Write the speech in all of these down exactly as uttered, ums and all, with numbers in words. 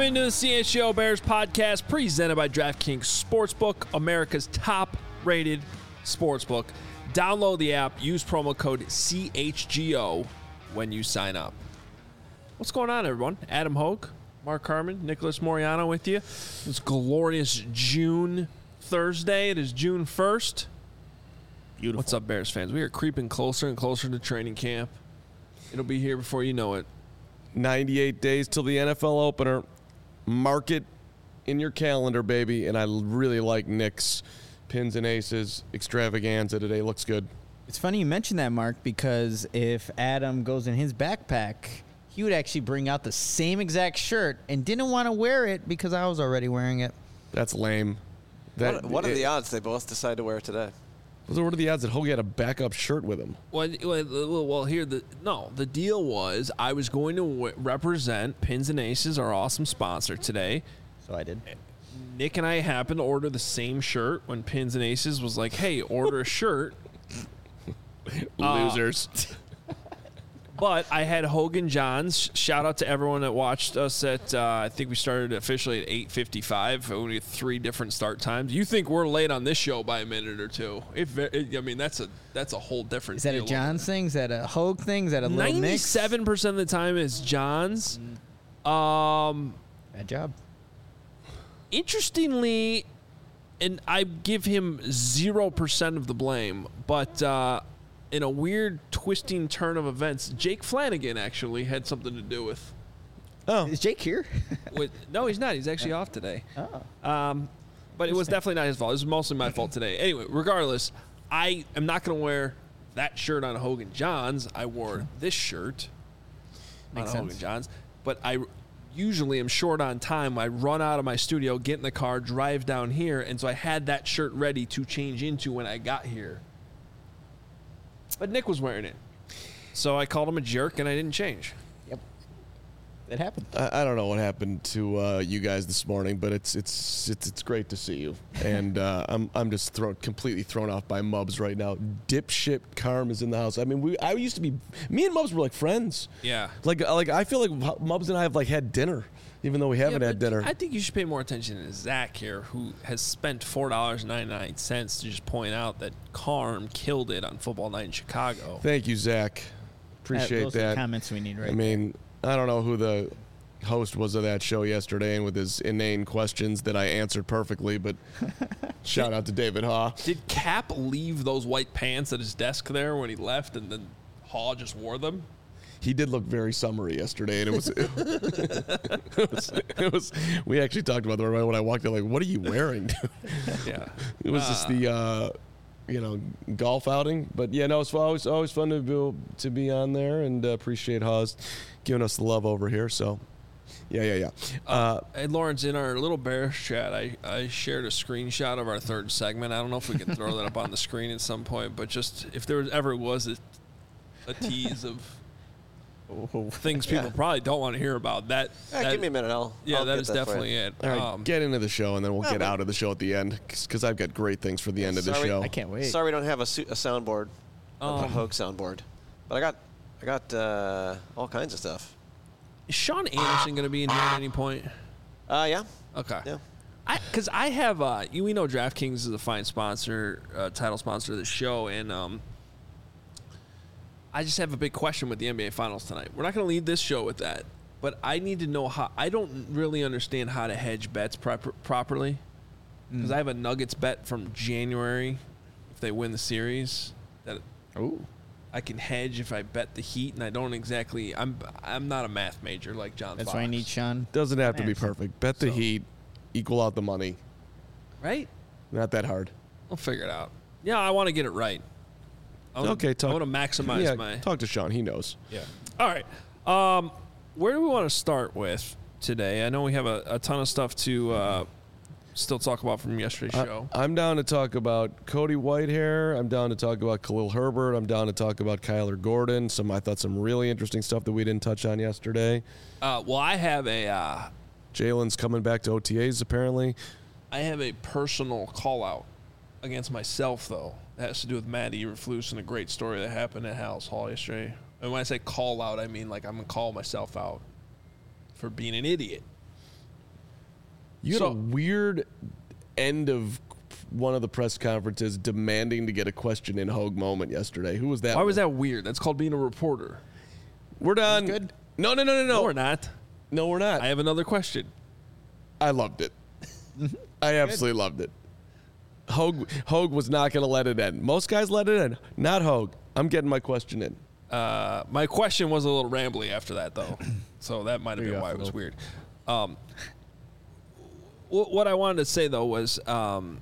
into the C H G O Bears podcast presented by DraftKings Sportsbook, America's top-rated sportsbook. Download the app. Use promo code C H G O when you sign up. What's going on, everyone? Adam Hogue, Mark Harmon, Nicholas Moriano with you. It's glorious June Thursday. It is June first. Beautiful. What's up, Bears fans? We are creeping closer and closer to training camp. It'll be here before you know it. ninety-eight days till the N F L opener. Mark it in your calendar, baby. And I really like Nick's Pins and Aces extravaganza today. Looks good. It's funny you mention that, Mark, because if Adam goes in his backpack, he would actually bring out the same exact shirt and didn't want to wear it because I was already wearing it. That's lame. That, what, what are it, the odds they both decide to wear it today? What are the odds that Hoagie had a backup shirt with him? Well, well, well, here the no. The deal was I was going to w- represent Pins and Aces, our awesome sponsor today. So I did. Nick and I happened to order the same shirt when Pins and Aces was like, "Hey, order a shirt." Losers. Uh, but I had Hogan Johns. Shout out to everyone that watched us at. Uh, I think we started officially at eight fifty-five. We had three different start times. You think we're late on this show by a minute or two? It, it, I mean, that's a that's a whole different. Is that deal. a Johns thing? Is that a Hogue thing? Is that a little mix? Ninety-seven percent of the time is Johns. Um, Bad job. Interestingly, and I give him zero percent of the blame, but uh, in a weird twisting turn of events, Jake Flanagan actually had something to do with. Oh, is Jake here? with no, he's not. He's actually off today. Oh, Um, but it was definitely not his fault. It was mostly my fault today. Anyway, regardless, I am not going to wear that shirt on Hogan Johns. I wore this shirt Makes on sense. Hogan Johns, but I usually am short on time. I run out of my studio, get in the car, drive down here, and so I had that shirt ready to change into when I got here. But Nick was wearing it, so I called him a jerk, and I didn't change. yep. It happened. I, I don't know what happened to uh, you guys this morning, but it's it's it's it's great to see you. And uh, I'm I'm just thrown completely thrown off by Mubs right now. Dipshit Carm is in the house. I mean, we I used to be me and Mubs were like friends. Yeah. Like like I feel like Mubs and I have like had dinner, even though we haven't Yeah, had but dinner. I think you should pay more attention to Zach here, who has spent four dollars and ninety-nine cents to just point out that Carm killed it on Football Night in Chicago. Thank you, Zach. Appreciate Uh, those are the that. comments we need right I mean, I don't know who the host was of that show yesterday and with his inane questions that I answered perfectly, but shout out to David Haw. Did Cap leave those white pants at his desk there when he left, and then Haw just wore them? He did look very summery yesterday, and it was, it was, it was, we actually talked about that right when I walked in, like, what are you wearing? Yeah. It was just the, uh, you know, golf outing. But, yeah, no, it's always, always fun to be, to be on there, and uh, appreciate Hawes giving us the love over here. So, yeah, yeah, yeah. Uh, Hey, Lawrence, in our little Bears chat, I, I shared a screenshot of our third segment. I don't know if we can throw that up on the screen at some point, but just if there was, ever was a, a tease of things people Yeah. probably don't want to hear about, that, Yeah, that give me a minute. I'll. yeah, I'll that get is that for definitely you. it. all right, Um, get into the show, and then we'll Yeah, get but- out of the show at the end, because I've got great things for the end of the Sorry, show. I can't wait. Sorry, we don't have a, su- a soundboard, a Um, Hogue soundboard, but I got, I got uh, all kinds of stuff. Is Sean Anderson going to be in here at any point? Uh, yeah, Okay. yeah. I because I have uh, you we know DraftKings is a fine sponsor, uh, title sponsor of the show, and um, I just have a big question with the N B A Finals tonight. We're not going to lead this show with that, but I need to know how. I don't really understand how to hedge bets proper, properly because I have a Nuggets bet from January if they win the series that Ooh. I can hedge if I bet the Heat, and I don't exactly. I'm I'm not a math major like John. That's Fox, why I need Sean. Doesn't have to be Max. perfect. Bet the So- Heat, equal out the money. right? Not that hard. We'll figure it out. Yeah, I want to get it right. I wanna, Okay, talk- I want to maximize yeah, my. talk to Sean. He knows. Yeah. All right. Um, where do we want to start with today? I know we have a, a ton of stuff to uh, still talk about from yesterday's show. I, I'm down to talk about Cody Whitehair. I'm down to talk about Khalil Herbert. I'm down to talk about Kyler Gordon. Some I thought some really interesting stuff that we didn't touch on yesterday. Uh, well, I have a uh, Jalen's coming back to O T As apparently. I have a personal call out against myself though. It has to do with Matt Eberflus and a great story that happened at House Hall yesterday. And when I say call out, I mean like I'm gonna call myself out for being an idiot. You had So- a weird end of one of the press conferences demanding to get a question in Hogue moment yesterday. Who was that? Why was one? that weird? That's called being a reporter. We're done. good? No, no, no, no, no. No, we're not. No, we're not. I have another question. I loved it. I absolutely loved it. Hogue, Hogue was not going to let it end. Most guys let it end. Not Hogue. I'm getting my question in. Uh, my question was a little rambly after that, though, so that might have There been you why go, it was Phil. weird. Um, wh- what I wanted to say though was, um,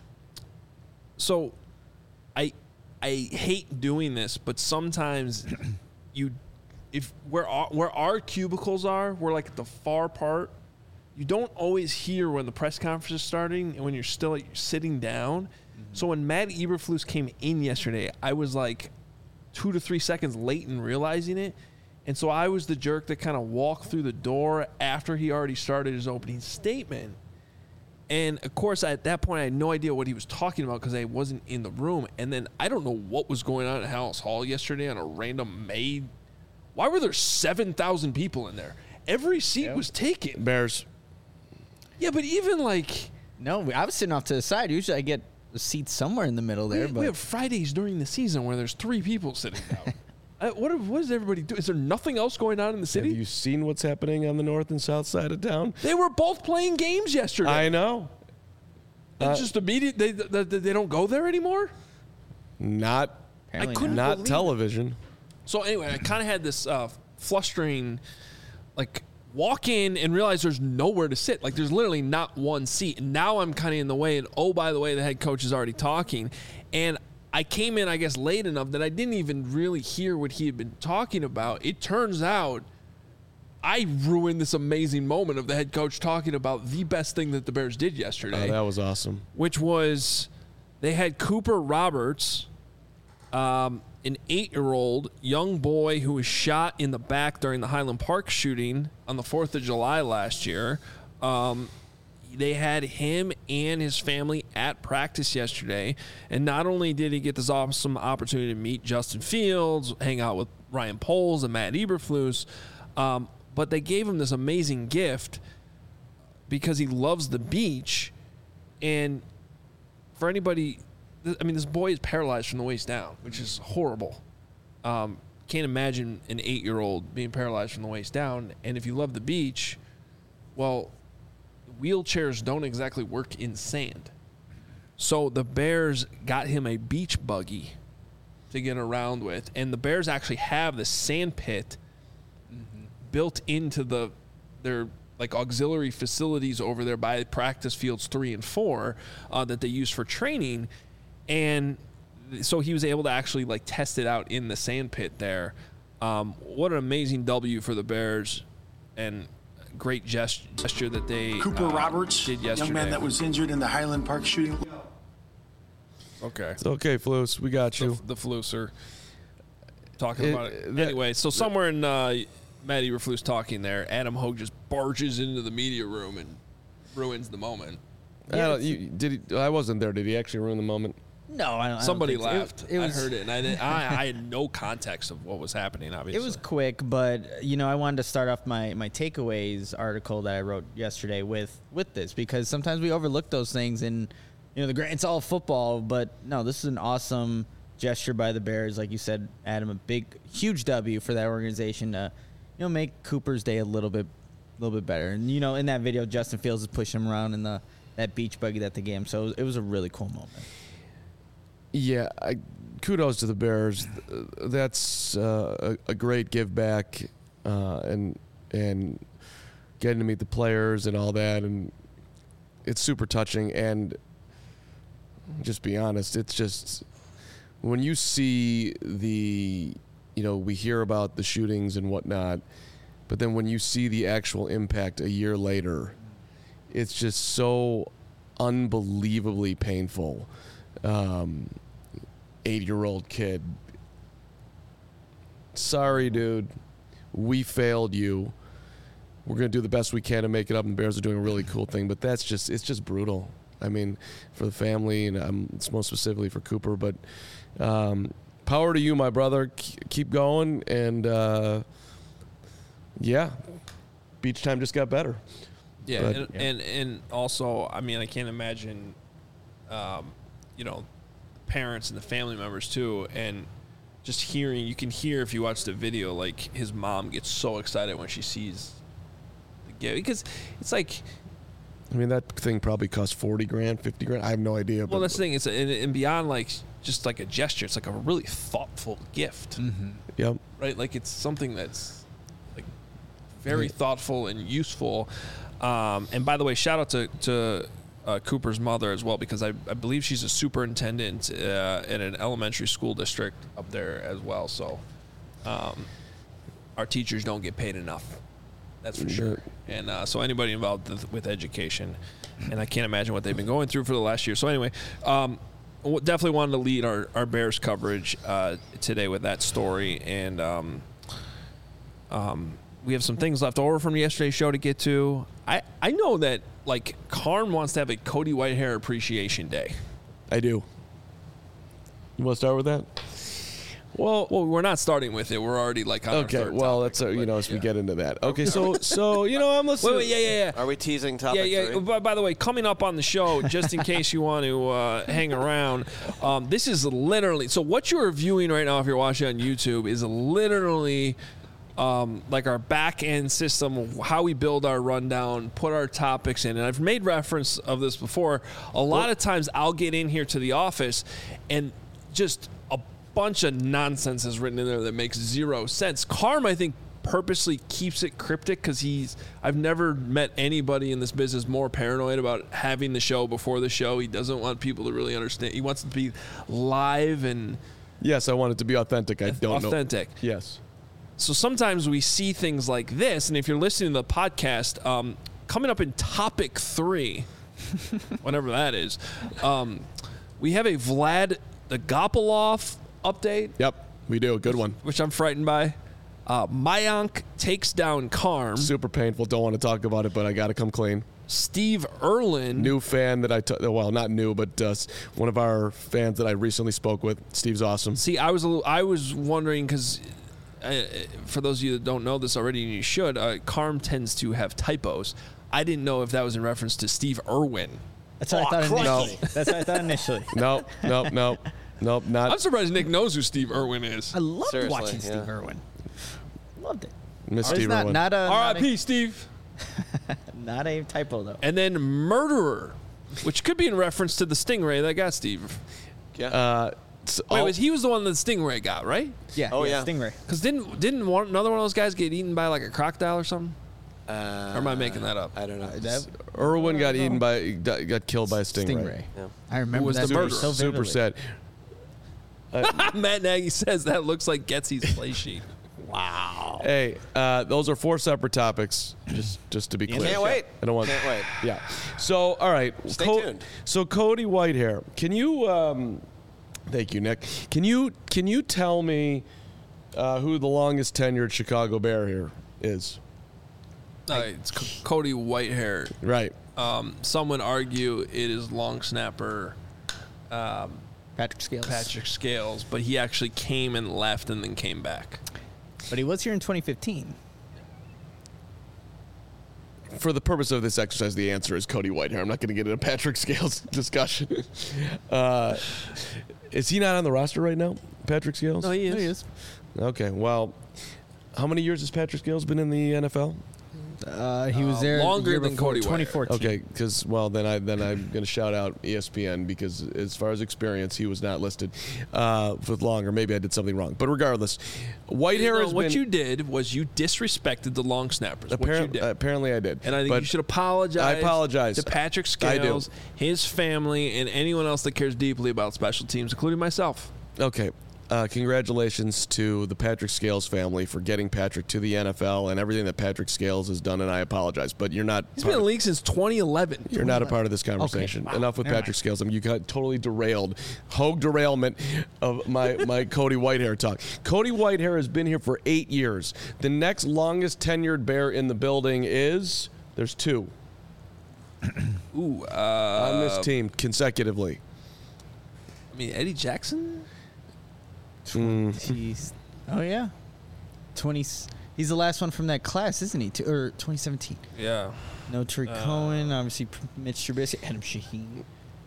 so I I hate doing this, but sometimes you, if where our, where our cubicles are, we're like at the far part. You don't always hear when the press conference is starting and when you're still like, sitting down. Mm-hmm. So when Matt Eberflus came in yesterday, I was like two to three seconds late in realizing it. And so I was the jerk that kind of walked through the door after he already started his opening statement. And, of course, at that point, I had no idea what he was talking about because I wasn't in the room. And then I don't know what was going on at Hallis Hall yesterday on a random May. Why were there seven thousand people in there? Every seat Yeah. was taken. Bears. Yeah, but even like No, I was sitting off to the side. Usually I get a seat somewhere in the middle there. we, but we have Fridays during the season where there's three people sitting down. uh, what, what does everybody do? Is there nothing else going on in the Have city? you seen what's happening on the north and south side of town? They were both playing games yesterday. I know. It's uh, just immediate. They, they they don't go there anymore. Not, apparently I couldn't not. not believe it. television. So anyway, I kind of had this uh, flustering, like walk in and realize there's nowhere to sit. Like there's literally not one seat. And now I'm kind of in the way. And oh, by the way, the head coach is already talking. And I came in, I guess, late enough that I didn't even really hear what he had been talking about. It turns out I ruined this amazing moment of the head coach talking about the best thing that the Bears did yesterday, Oh, that was awesome. which was they had Cooper Roberts, um, an eight-year-old young boy who was shot in the back during the Highland Park shooting on the fourth of July last year. Um, they had him and his family at practice yesterday. And not only did he get this awesome opportunity to meet Justin Fields, hang out with Ryan Poles and Matt Eberflus, um, but they gave him this amazing gift because he loves the beach. And for anybody, I mean, this boy is paralyzed from the waist down, which is horrible. Um, can't imagine an eight-year-old being paralyzed from the waist down. And if you love the beach, well, wheelchairs don't exactly work in sand. So the Bears got him a beach buggy to get around with. And the Bears actually have the sand pit mm-hmm. built into the their like auxiliary facilities over there by practice fields three and four uh, that they use for training. And so he was able to actually like test it out in the sand pit there. Um, what an amazing W for the Bears, and great gest- gesture that they Cooper uh, Roberts, did yesterday. young man that was injured in the Highland Park shooting. okay. It's okay, Flus. We got The, you. the Flusser talking It- about it. that- Anyway, so somewhere in uh, Matt Eberflus talking there, Adam Hogue just barges into the media room and ruins the moment. I, don't- you, did he, I wasn't there. Did he actually ruin the moment? No, I don't. I don't Somebody think so. It- laughed. It, was, I heard it, and I, didn't, I, I had no context of what was happening, obviously. It was quick, but you know, I wanted to start off my my takeaways article that I wrote yesterday with with this, because sometimes we overlook those things, and you know, the gra- it's all football, but no, this is an awesome gesture by the Bears, like you said, Adam, a big, huge W for that organization to, you know, make Cooper's day a little bit, a little bit better. And you know, in that video, Justin Fields is pushing him around in the that beach buggy that they gave him, so it was, it was a really cool moment. Yeah, I, kudos to the Bears. That's uh, a, a great give back, uh, and and getting to meet the players and all that, and it's super touching. And just be honest, it's just when you see the, you know, we hear about the shootings and whatnot, but then when you see the actual impact a year later, it's just so unbelievably painful. Um, eight-year-old kid. Sorry, dude. We failed you. We're going to do the best we can to make it up, and the Bears are doing a really cool thing, but that's just, it's just brutal. I mean, for the family, and um, it's most specifically for Cooper, but um, power to you, my brother. Keep going, and uh, yeah, beach time just got better. Yeah, But- and, and and also, I mean, I can't imagine, um, you know, parents and the family members too, and just hearing. You can hear if you watch the video, like his mom gets so excited when she sees the gift because it's like. I mean, that thing probably cost forty grand, fifty grand. I have no idea. Well, but that's the thing. It's a, and, and beyond like just like a gesture. It's like a really thoughtful gift, Mm-hmm. Yep. right? Like it's something that's like very thoughtful and useful. Um, and by the way, shout out to to uh, Cooper's mother as well, because I, I believe she's a superintendent uh, in an elementary school district up there as well. So um, our teachers don't get paid enough. That's for sure. And uh, so anybody involved th- with education, and I can't imagine what they've been going through for the last year. So anyway, um, w- definitely wanted to lead our, our Bears coverage uh, today with that story. And um, um, we have some things left over from yesterday's show to get to. I, I know that, like, Carm wants to have a Cody Whitehair Appreciation Day. I do. You want to start with that? Well, well, we're not starting with it. We're already, like, on Okay. our third Well, topic, that's uh, you but, know as we yeah. get into that. Okay. So so you know I'm listening. Wait, wait, yeah, yeah, yeah. Are we teasing topic Yeah, yeah. three? By, by the way, coming up on the show, just in case you want to uh, hang around, um, this is literally so. What you are viewing right now, if you're watching on YouTube, is literally um, like our back end system, of how we build our rundown, put our topics in. And I've made reference of this before. A lot of times, I'll get in here to the office, and just a bunch of nonsense is written in there that makes zero sense. Carm, I think, purposely keeps it cryptic because he's I've never met anybody in this business more paranoid about having the show before the show. He doesn't want people to really understand. He wants it to be live and Yes, I want it to be authentic. I don't know. authentic. Yes. So sometimes we see things like this, and if you're listening to the podcast, um, coming up in topic three, whatever that is, um, we have a Vlad Agopolov update, Yep. We do. Good one. which I'm frightened by. Uh, Mayank takes down Carm. Super painful. Don't want to talk about it, but I got to come clean. Steve Erlin. New fan that I t- well not new, but uh, one of our fans that I recently spoke with. Steve's awesome. See, I was a little, I was wondering because uh, for those of you that don't know this already, and you should, uh, Carm tends to have typos. I didn't know if that was in reference to Steve Irwin. That's what I thought initially. That's what I thought initially. Nope. Nope. Nope. Nope. I'm Not surprised Nick knows who Steve Irwin is. I loved Seriously, watching yeah. Steve Irwin. Loved it. Miss It's Steve not, Irwin. not a R I P Steve. Not a, not a typo though. And then Murderer, which could be in reference to the Stingray that got Steve. Yeah. Uh, s- Wait, all- was he was the one that the Stingray got, right? Yeah. Oh, yeah. Stingray. Because didn't didn't one, another one of those guys get eaten by like a crocodile or something? uh, Or am I making that up? I don't know. That, Irwin got eaten by got got killed by a stingray. Stingray. Yeah. I remember was that the movie murderer? so Super vividly. sad. Matt Nagy says that looks like Getsy's play sheet. Hey, uh, those are four separate topics. Just just to be clear. Can't wait. I don't want. Can't wait. Yeah. So all right. Stay tuned. So Cody Whitehair, can you? Um, thank you, Nick. Can you can you tell me uh, who the longest tenured Chicago Bear here is? Uh, it's C- Cody Whitehair. Right. Um, some would argue it is long snapper Patrick Scales. Patrick Scales, but he actually came and left and then came back. But he was here in twenty fifteen. For the purpose of this exercise, the answer is Cody Whitehair. I'm not going to get into Patrick Scales discussion. uh, is he not on the roster right now, Patrick Scales? No, he is. There he is. Okay. Well, how many years has Patrick Scales been in the N F L? Uh, he was Uh, there the longer year than before, Cody Whitehair. twenty fourteen. Okay, because well, then I then I'm going to shout out E S P N because as far as experience, he was not listed uh, with longer. Maybe I did something wrong, but regardless, Whitehair No, has what been. you did was you disrespected the long snappers. What you apparent- did. apparently, I did, And I think but you should apologize. I apologize. to Patrick I do. Scales, his family, and anyone else that cares deeply about special teams, including myself. Okay. Uh, congratulations to the Patrick Scales family for getting Patrick to the N F L and everything that Patrick Scales has done, and I apologize, but you're not. He's part been in of- the league since twenty eleven. You're not a part of this conversation. wow. Enough with Never Patrick Scales. I mean, you got totally derailed. Hogue derailment of my, my Cody Whitehair talk. Cody Whitehair has been here for eight years. The next longest tenured Bear in the building is there's two Ooh, uh, on this team consecutively. I mean Eddie Jackson. Jeez. Oh yeah. Twenty. He's the last one from that class, isn't he? To, or twenty seventeen. Yeah. No Tariq Uh, Cohen, obviously Mitch Trubisky, Adam Shaheen.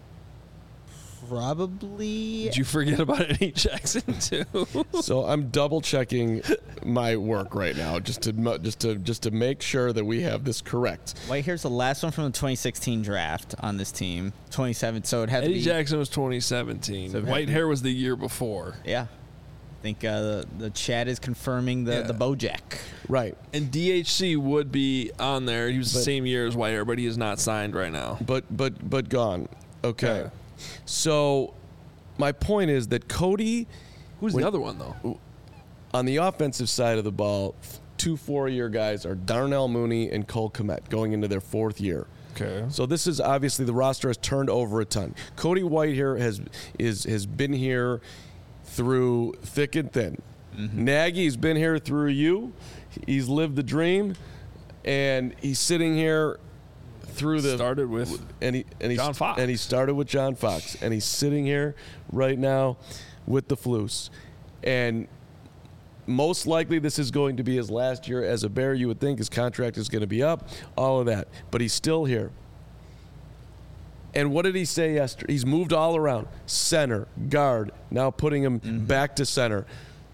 Probably. Did you forget about Eddie Jackson too? So I'm double checking my work right now just to mu- just to just to make sure that we have this correct. Whitehair's the last one from the twenty sixteen draft on this team. twenty-seven, so it had to Eddie be. Jackson was twenty seventeen. So it had White to be- hair was the year before. Yeah. I think uh, the, the chat is confirming the, Yeah. the Bojack. Right. And D H C would be on there. He was the But- same year as White hair, but he is not signed right now. But but but gone. Okay. Yeah. So my point is that Cody Who's When- the other one though? on the offensive side of the ball, two four-year guys are Darnell Mooney and Cole Kmet going into their fourth year. Okay. So this is obviously the roster has turned over a ton. Cody Whitehair has is has been here through thick and thin. Nagy's been here through you. He's lived the dream, and he's sitting here through the Started with and he and he John Fox. and he started with John Fox, and he's sitting here right now with the Floos, and most likely this is going to be his last year as a Bear. You would think his contract is going to be up, all of that, but he's still here. And what did he say yesterday? He's moved all around. Center, guard, now putting him back to center.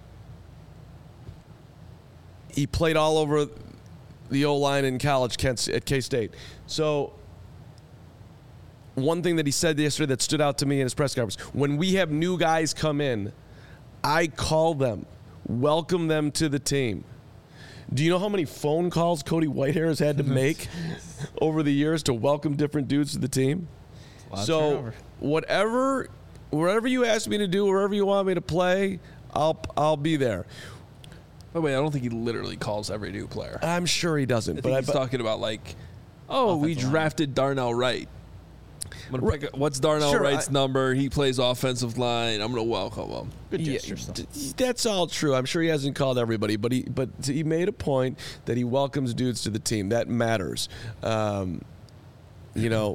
He played all over the O-line in college Kent, at K-State. So one thing that he said yesterday that stood out to me in his press conference, when we have new guys come in, I call them, welcome them to the team. Do you know how many phone calls Cody Whitehair has had to make over the years to welcome different dudes to the team? Lot of So turnover. whatever, wherever you ask me to do, wherever you want me to play, I'll I'll be there. By the way, I don't think he literally calls every new player. I'm sure he doesn't, I but think I, he's but talking about like, oh, we Offensive line. drafted Darnell Wright. I'm gonna pick. A, what's Darnell Sure, Wright's I- number? He plays offensive line. I'm gonna welcome him. Good Yeah, gesture still. d- that's all true. I'm sure he hasn't called everybody, but he but he made a point that he welcomes dudes to the team. That matters. Um, you know,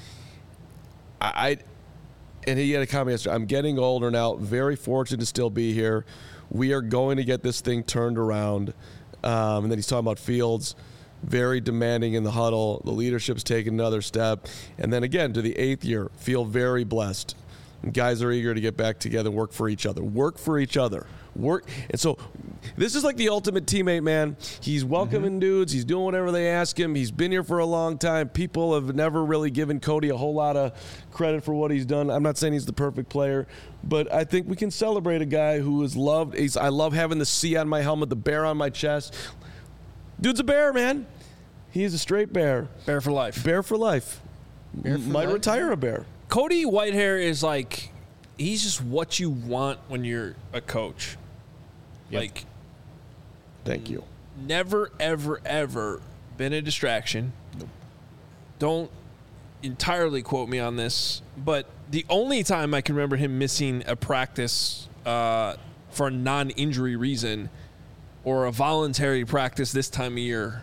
I, I and he had a comment yesterday. I'm getting older now. Very fortunate to still be here. We are going to get this thing turned around. Um, and then he's talking about Fields, very demanding in the huddle. The leadership's taken another step. And then again, to the eighth year, feel very blessed. And guys are eager to get back together and work for each other. Work for each other. Work. And so this is like the ultimate teammate, man. He's welcoming Mm-hmm. dudes. He's doing whatever they ask him. He's been here for a long time. People have never really given Cody a whole lot of credit for what he's done. I'm not saying he's the perfect player, but I think we can celebrate a guy who is loved. He's, I love having the C on my helmet, the bear on my chest. Dude's a bear, man. He's a straight bear. Bear for life. Bear for life. Bear for Might life? retire a bear. Cody Whitehair is like, he's just what you want when you're a coach. Yep. Like, Thank you. never, ever, ever been a distraction. Don't entirely quote me on this, but the only time I can remember him missing a practice uh, for a non-injury reason or a voluntary practice this time of year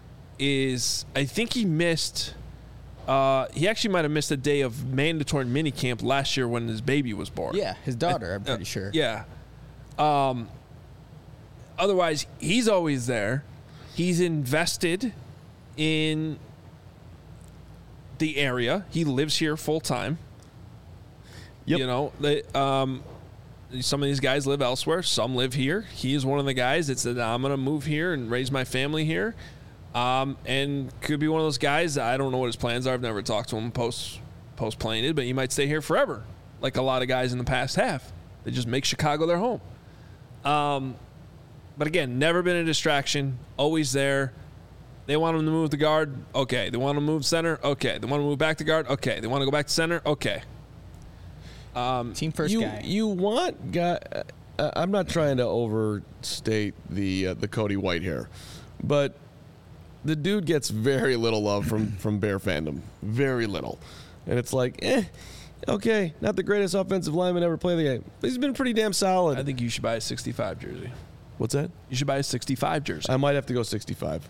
is I think he missed uh, he actually might have missed a day of mandatory minicamp last year when his baby was born. Yeah, his daughter, I'm Uh, pretty sure. Yeah. Um, otherwise, he's always there. He's invested in the area. He lives here full time. Yep. You know, they, um, some of these guys live elsewhere. Some live here. He is one of the guys that said, I'm going to move here and raise my family here. Um, and could be one of those guys. I don't know what his plans are. I've never talked to him post post playing it, but he might stay here forever, like a lot of guys in the past have. They just make Chicago their home. Um, but again, never been a distraction. Always there. They want him to move the guard. Okay. They want him to move center. Okay. They want to move back to guard. Okay. They want to go back to center. Okay. Team first you, guy. You want guy. Uh, I'm not trying to overstate the uh, the Cody Whitehair, but the dude gets very little love from from Bear fandom. Very little, and it's like, eh, okay, not the greatest offensive lineman ever play the game, but he's been pretty damn solid. I think you should buy a sixty-five jersey. What's that? You should buy a sixty-five jersey. I might have to go sixty-five.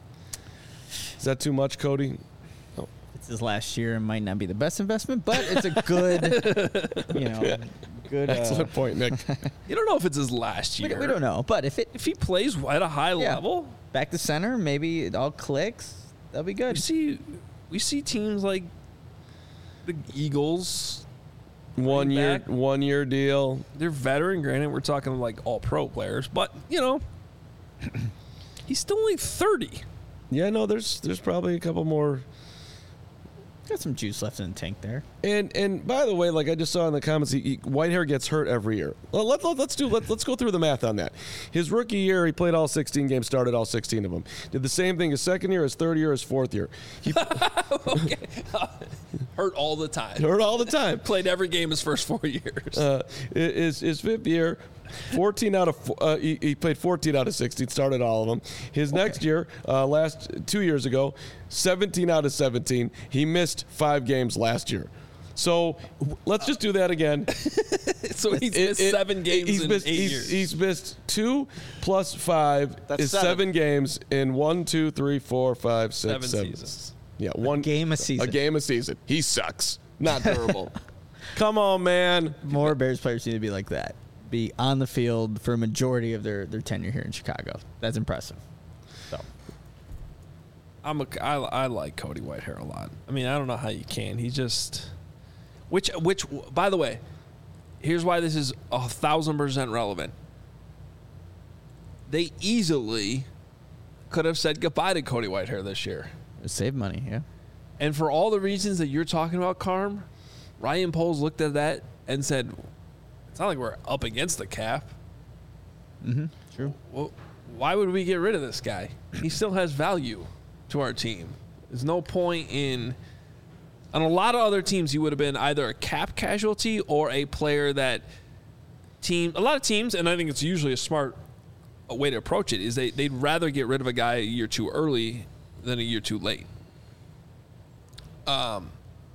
Is that too much, Cody? It's his last year and might not be the best investment, but it's a good, you know, Good. Uh, Excellent point, Nick. You don't know if it's his last we, year. we don't know, but if it If he plays at a high yeah, level, back to center, maybe it all clicks. That'll be we good. see we see teams like the Eagles. One year, back. one year deal. They're veteran. Granted, we're talking like all pro players, but you know, he's still only thirty. Yeah, no, there's there's probably a couple more. Got some juice left in the tank there. And and by the way, like I just saw in the comments, he, he, Whitehair gets hurt every year. Well, let, let, let's do let, let's go through the math on that. His rookie year, he played all sixteen games, started all sixteen of them. Did the same thing his second year, his third year, his fourth year. He Okay, hurt all the time. hurt all the time. Played every game his first four years. Uh, his his fifth year, fourteen out of fo- uh, he, he played fourteen out of sixteen, started all of them. His next year, uh, last two years ago, seventeen out of seventeen. He missed five games last year. So let's just do that again. So he's It- missed it- seven games he's in missed, eight he's, years. He's missed two plus five That's is seven. seven games in one, two, three, four, five, six, Seven seven. seasons. Yeah, one game a season. A game a season. He sucks. Not durable. Come on, man. More Bears players need to be like that. Be on the field for a majority of their, their tenure here in Chicago. That's impressive. So I'm a, I, I like Cody Whitehair a lot. I mean, I don't know how you can. He just, which which by the way, here's why this is a thousand percent relevant. They easily could have said goodbye to Cody Whitehair this year, save money, yeah. and for all the reasons that you're talking about, Carm, Ryan Poles looked at that and said, "It's not like we're up against the cap. Mm-hmm. True. Well, why would we get rid of this guy? He still has value to our team. There's no point in. On a lot of other teams, he would have been either a cap casualty or a player that team. A lot of teams, and I think it's usually a smart way to approach it, is they they'd rather get rid of a guy a year too early than a year too late. Um,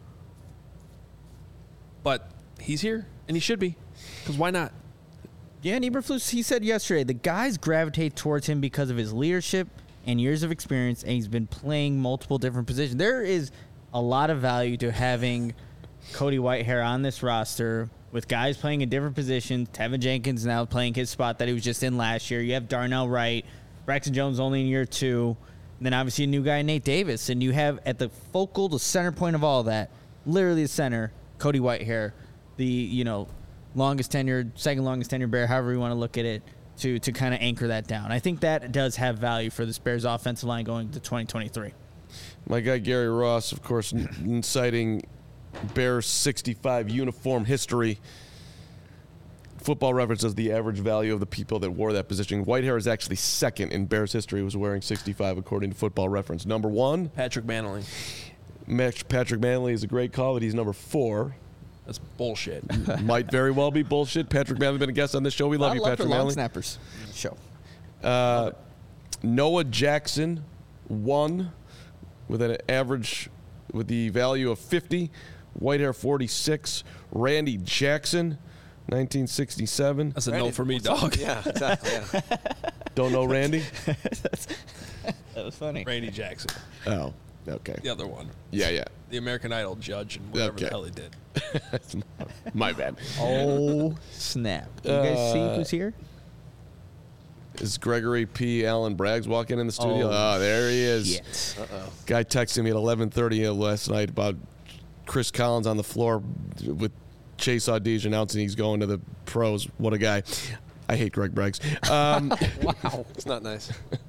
but he's here, and he should be, because why not? Yeah, and Eberflus, he said yesterday, the guys gravitate towards him because of his leadership and years of experience, and he's been playing multiple different positions. There is a lot of value to having Cody Whitehair on this roster with guys playing in different positions. Tevin Jenkins now playing his spot that he was just in last year. You have Darnell Wright, Braxton Jones only in year two, and then obviously a new guy, Nate Davis. And you have at the focal, the center point of all that, literally the center, Cody Whitehair, the, you know, longest tenured, second longest tenured Bear, however you want to look at it, to to kind of anchor that down. I think that does have value for this Bears offensive line going to twenty twenty-three. My guy Gary Ross, of course, n- citing Bears sixty-five uniform history. Football Reference as the average value of the people that wore that position. Whitehair is actually second in Bears history, was wearing sixty-five according to Football Reference. Number one, Patrick Manley. Max- Patrick Manley is a great call, but he's number four. That's bullshit. Might very well be bullshit. Patrick Manley's been a guest on this show. We love I you, love Patrick for long Manley. snappers show. Uh, Noah Jackson, one, with an average, with the value of fifty. Whitehair, forty-six. Randy Jackson, nineteen sixty-seven. That's a Randy, no for me, what's up? dog. Yeah, exactly. Yeah. Don't know Randy? That was funny. Randy Jackson, Oh, okay. the other one, Yeah, yeah. the American Idol judge and whatever Okay. the hell he did. My bad. Oh, snap. You guys see Uh, who's here? Is Gregory P. Allen Braggs walking in the studio? Oh, Oh, there he is. Shit. Uh-oh. Guy texted me at eleven thirty last night about Chris Collins on the floor with Chase Audige announcing he's going to the pros. What a guy. I hate Greg Braggs. Um, Wow. It's not nice.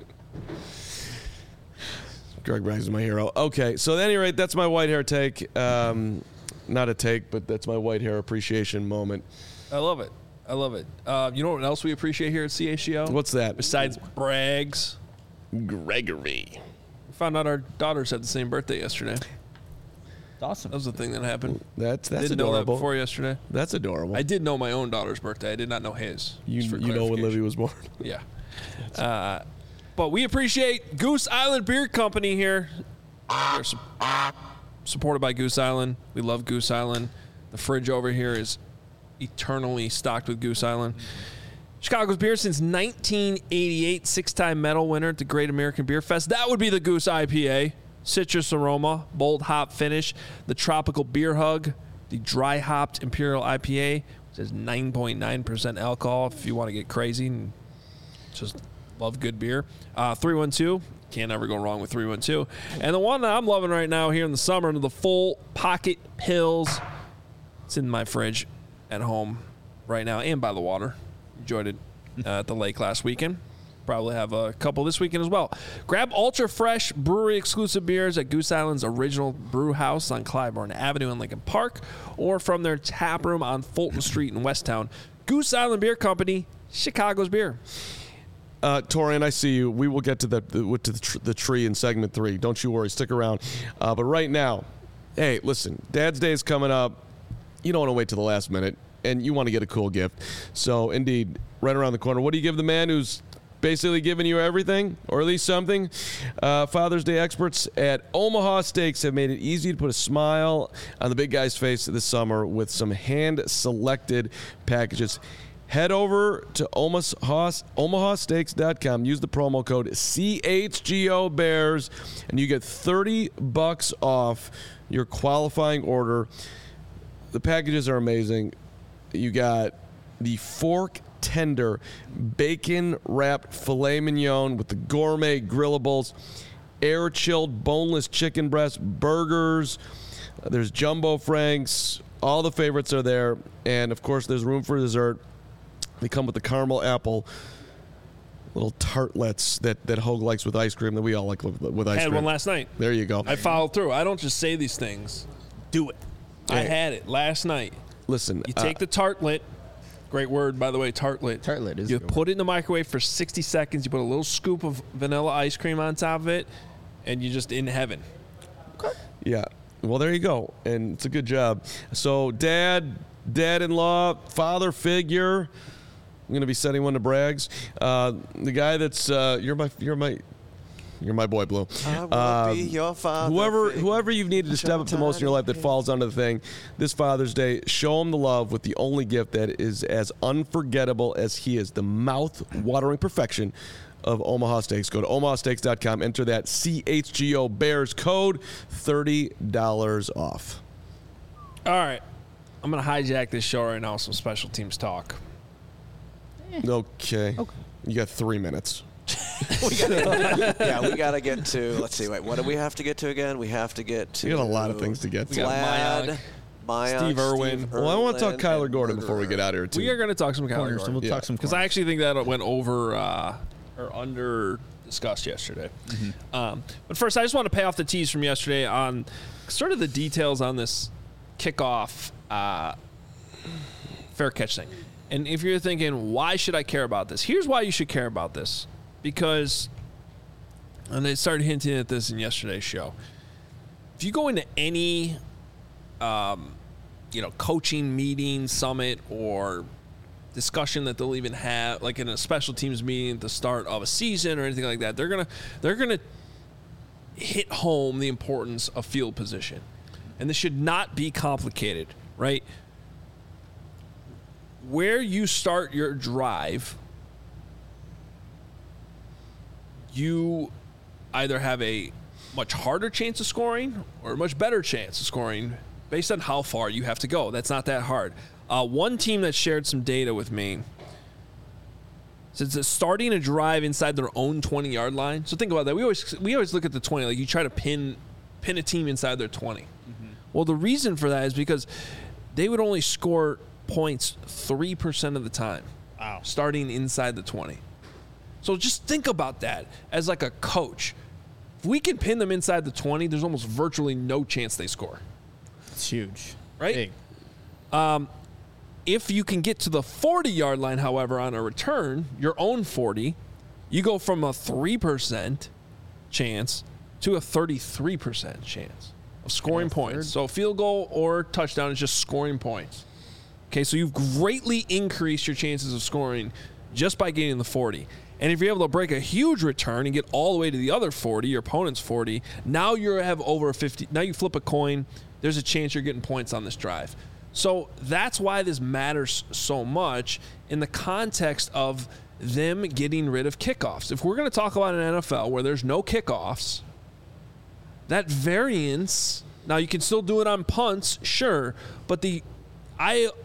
Greg Braggs is my hero. Okay, so at any rate, that's my white hair take. Um, not a take, but that's my white hair appreciation moment. I love it. I love it. Uh, you know what else we appreciate here at C H G O? What's that? Besides Braggs, Gregory. we found out our daughters had the same birthday yesterday. It's awesome. That was the thing that happened. That's that's Didn't know that adorable. before yesterday. That's adorable. I did know my own daughter's birthday. I did not know his. you Just for you know when clarification. Livy was born. Yeah. Uh, but we appreciate Goose Island Beer Company here. We're su- supported by Goose Island. We love Goose Island. The fridge over here is eternally stocked with Goose Island. Chicago's beer since nineteen eighty-eight, six-time medal winner at the Great American Beer Fest. That would be the Goose I P A. Citrus aroma, bold hop finish, the tropical beer hug, the dry hopped Imperial I P A, It says nine point nine percent alcohol if you want to get crazy and just love good beer. Uh, three one two. Can't ever go wrong with three one two. And the one that I'm loving right now here in the summer, the Full Pocket Pills. It's in my fridge at home right now and by the water. Enjoyed it uh, at the lake last weekend. Probably have a couple this weekend as well. Grab ultra fresh brewery exclusive beers at Goose Island's original brew house on Clybourne Avenue in Lincoln Park, or from their tap room on Fulton Street in Westtown. Goose Island Beer Company, Chicago's beer. Uh, Torian, I see you. We will get to the to the, tr- the tree in segment three. Don't you worry. Stick around. Uh, but right now, hey, listen. Dad's Day is coming up. You don't want to wait till the last minute, and you want to get a cool gift. So, indeed, right around the corner. What do you give the man who's basically giving you everything, or at least something? Uh, Father's Day experts at Omaha Steaks have made it easy to put a smile on the big guy's face this summer with some hand-selected packages. Head over to omaha steaks dot com. Use the promo code C H G O Bears, and you get thirty bucks off your qualifying order. The packages are amazing. You got the fork tender bacon wrapped filet mignon with the gourmet grillables, air chilled boneless chicken breast burgers. There's jumbo franks. All the favorites are there, and of course, there's room for dessert. They come with the caramel apple little tartlets that, that Hogue likes with ice cream that we all like with, with ice I had cream. one last night. There you go. I followed through. I don't just say these things. Do it. I Hey. had it last night. Listen, You take uh, the tartlet. Great word, by the way, tartlet. Tartlet is You a good put it in the microwave for sixty seconds. You put a little scoop of vanilla ice cream on top of it, and you're just in heaven. yeah. Well, there you go, and it's a good job. So, dad, dad-in-law, father figure. I'm gonna be sending one to Braggs. Uh, the guy that's uh, you're my you're my you're my boy, Blue. I will Um, be your father. Whoever figure. whoever you've needed to step up the most in your life that falls under the thing, this Father's Day, show him the love with the only gift that is as unforgettable as he is, the mouth-watering perfection of Omaha Steaks. Go to omaha steaks dot com, enter that C H G O Bears code, thirty dollars off. All right. I'm going to hijack this show right now with some special teams talk. Okay. okay. You got three minutes. we gotta, yeah, we got to get to, let's see, wait, what do we have to get to again? We have to get to. We got a lot of things to get to. got Vlad, Mayock, Mayock, Steve Irwin. Well, I want to talk Irwin, Kyler and Gordon before we Murderer. get out of here, too. We are going to talk some Corners, Kyler so we'll Yeah. talk some because I corners. actually think that went over uh, or under discussed yesterday. Mm-hmm. Um, but first, I just want to pay off the tease from yesterday on sort of the details on this kickoff uh, fair catch thing. And if you're thinking, why should I care about this? Here's why you should care about this. Because, and they started hinting at this in yesterday's show. If you go into any, um, you know, coaching meeting, summit, or discussion that they'll even have, like in a special teams meeting at the start of a season or anything like that, they're gonna they're gonna hit home the importance of field position, and this should not be complicated, right? Where you start your drive, you either have a much harder chance of scoring or a much better chance of scoring based on how far you have to go. That's not that hard. Uh, one team that shared some data with me says that starting a drive inside their own twenty-yard line. So think about that. We always we always look at the twenty, like you try to pin pin a team inside their twenty. Mm-hmm. Well, the reason for that is because they would only score points three percent of the time. Wow. Starting inside the twenty. So just think about that as like a coach. If we can pin them inside the twenty, there's almost virtually no chance they score. It's huge. Right? Big. Um, if you can get to the forty-yard line, however, on a return, your own forty, you go from a three percent chance to a thirty-three percent chance of scoring points. So field goal or touchdown is just scoring points. Okay, so you've greatly increased your chances of scoring just by getting the forty. And if you're able to break a huge return and get all the way to the other forty, your opponent's forty, now you have over a fifty. Now you flip a coin, there's a chance you're getting points on this drive. So that's why this matters so much in the context of them getting rid of kickoffs. If we're going to talk about an N F L where there's no kickoffs, that variance, now you can still do it on punts, sure, but the I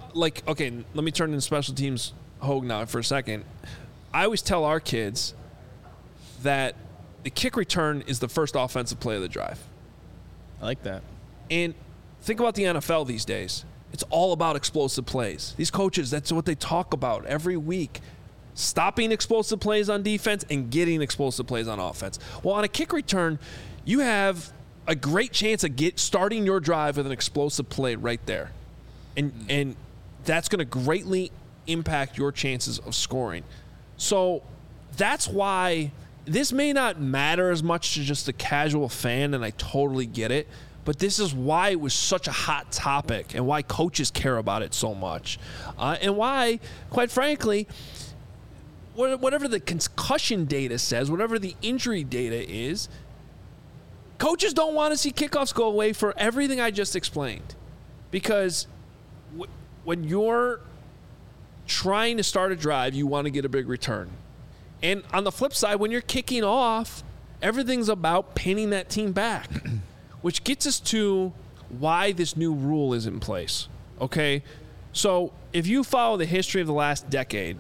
like, okay, let me turn into special teams Hogue now for a second. I always tell our kids that the kick return is the first offensive play of the drive. I like that. And think about the N F L these days. It's all about explosive plays. These coaches, that's what they talk about every week. Stopping explosive plays on defense and getting explosive plays on offense. Well, on a kick return, you have a great chance of get starting your drive with an explosive play right there. And and that's going to greatly impact your chances of scoring. So that's why this may not matter as much to just a casual fan, and I totally get it. But this is why it was such a hot topic and why coaches care about it so much. Uh, and why, quite frankly, whatever the concussion data says, whatever the injury data is, coaches don't want to see kickoffs go away for everything I just explained. Because w- when you're trying to start a drive, you want to get a big return. And on the flip side, when you're kicking off, everything's about pinning that team back. Which gets us to why this new rule is in place, okay? So if you follow the history of the last decade,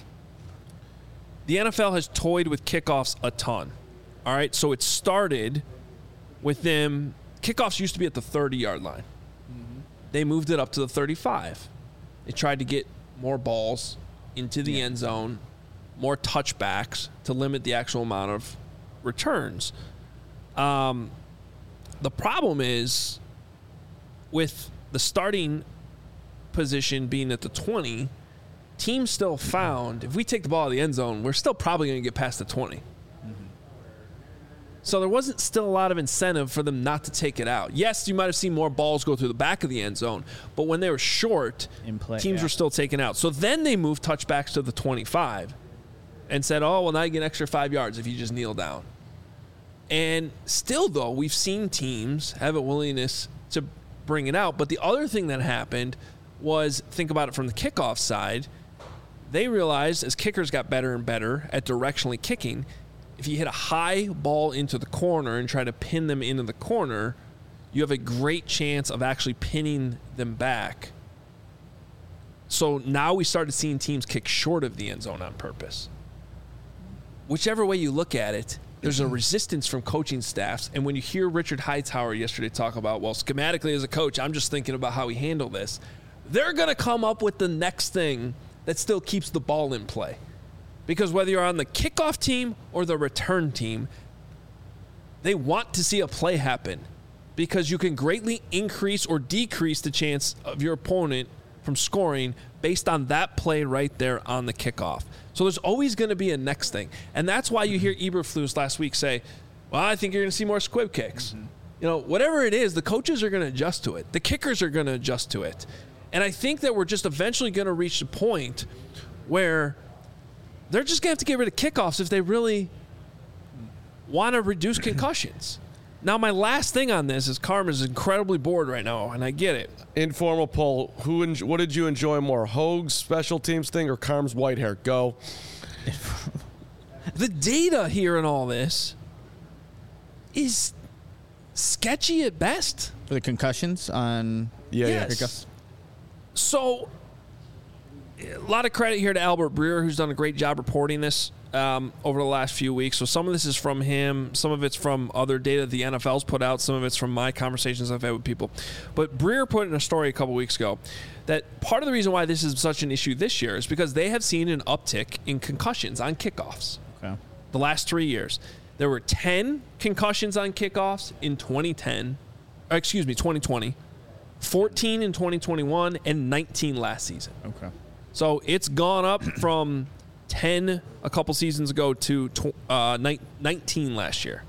the N F L has toyed with kickoffs a ton, all right? So it started with them – kickoffs used to be at the thirty-yard line. Mm-hmm. They moved it up to the thirty-five. They tried to get more balls into the yeah. end zone, more touchbacks to limit the actual amount of returns. Um The problem is with the starting position being at the twenty, teams still found if we take the ball out of the end zone, we're still probably going to get past the twenty. Mm-hmm. So there wasn't still a lot of incentive for them not to take it out. Yes, you might have seen more balls go through the back of the end zone, but when they were short, in play, teams yeah. were still taken out. So then they moved touchbacks to the twenty-five and said, oh, well, now you get an extra five yards if you just kneel down. And still, though, we've seen teams have a willingness to bring it out. But the other thing that happened was, think about it from the kickoff side, they realized as kickers got better and better at directionally kicking, if you hit a high ball into the corner and try to pin them into the corner, you have a great chance of actually pinning them back. So now we started seeing teams kick short of the end zone on purpose. Whichever way you look at it, there's a resistance from coaching staffs. And when you hear Richard Hightower yesterday talk about, well, schematically as a coach, I'm just thinking about how we handle this, they're going to come up with the next thing that still keeps the ball in play. Because whether you're on the kickoff team or the return team, they want to see a play happen because you can greatly increase or decrease the chance of your opponent from scoring based on that play right there on the kickoff. So there's always going to be a next thing. And that's why you hear Eberflus last week say, well, I think you're going to see more squib kicks. Mm-hmm. You know, whatever it is, the coaches are going to adjust to it. The kickers are going to adjust to it. And I think that we're just eventually going to reach the point where they're just going to have to get rid of kickoffs if they really want to reduce concussions. Now, my last thing on this is Carm is incredibly bored right now, and I get it. Informal poll. Who? En- what did you enjoy more, Hogue's special teams thing or Carm's white hair? Go. The data here in all this is sketchy at best. For the concussions on... Yeah, yes. yeah. So, a lot of credit here to Albert Breer, who's done a great job reporting this um, over the last few weeks. So some of this is from him. Some of it's from other data the N F L's put out. Some of it's from my conversations I've had with people. But Breer put in a story a couple weeks ago that part of the reason why this is such an issue this year is because they have seen an uptick in concussions on kickoffs. Okay. The last three years. There were ten concussions on kickoffs in twenty ten. Or excuse me, twenty twenty. fourteen in twenty twenty-one and nineteen last season. Okay. So it's gone up from ten a couple seasons ago to uh, nineteen last year.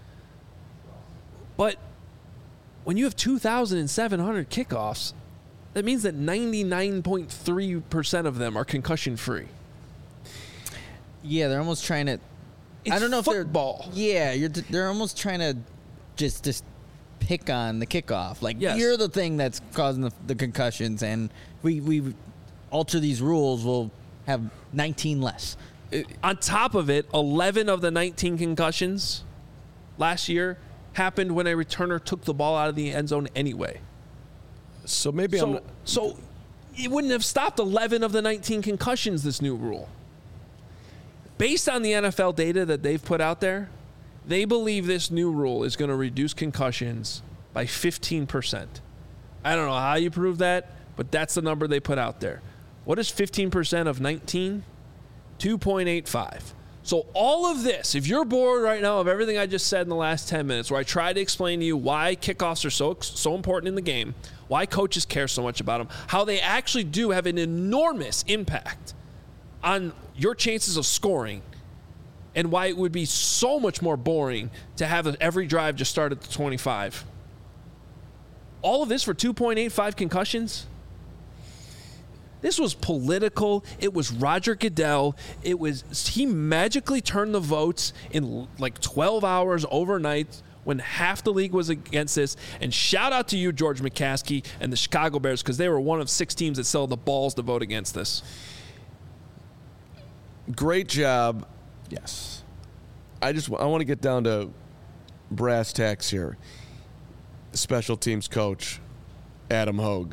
But when you have two thousand seven hundred kickoffs, that means that ninety-nine point three percent of them are concussion-free. Yeah, they're almost trying to... It's I don't know football. if they're... Yeah, you're, they're almost trying to just... just pick on the kickoff. Like, yes. You're the thing that's causing the, the concussions, and we we alter these rules, we'll have nineteen less. It, on top of it, eleven of the nineteen concussions last year happened when a returner took the ball out of the end zone anyway. So maybe so, I'm... Not- so it wouldn't have stopped eleven of the nineteen concussions, this new rule. Based on the N F L data that they've put out there, they believe this new rule is going to reduce concussions by fifteen percent. I don't know how you prove that, but that's the number they put out there. What is fifteen percent of nineteen? two point eight five. So all of this, if you're bored right now of everything I just said in the last ten minutes, where I tried to explain to you why kickoffs are so so important in the game, why coaches care so much about them, how they actually do have an enormous impact on your chances of scoring, and why it would be so much more boring to have every drive just start at the twenty-five. All of this for two point eight five concussions? This was political. It was Roger Goodell. It was, he magically turned the votes in like twelve hours overnight when half the league was against this. And shout out to you, George McCaskey, and the Chicago Bears, because they were one of six teams that still had the balls to vote against this. Great job. Yes. I just I want to get down to brass tacks here. Special teams coach Adam Hogue.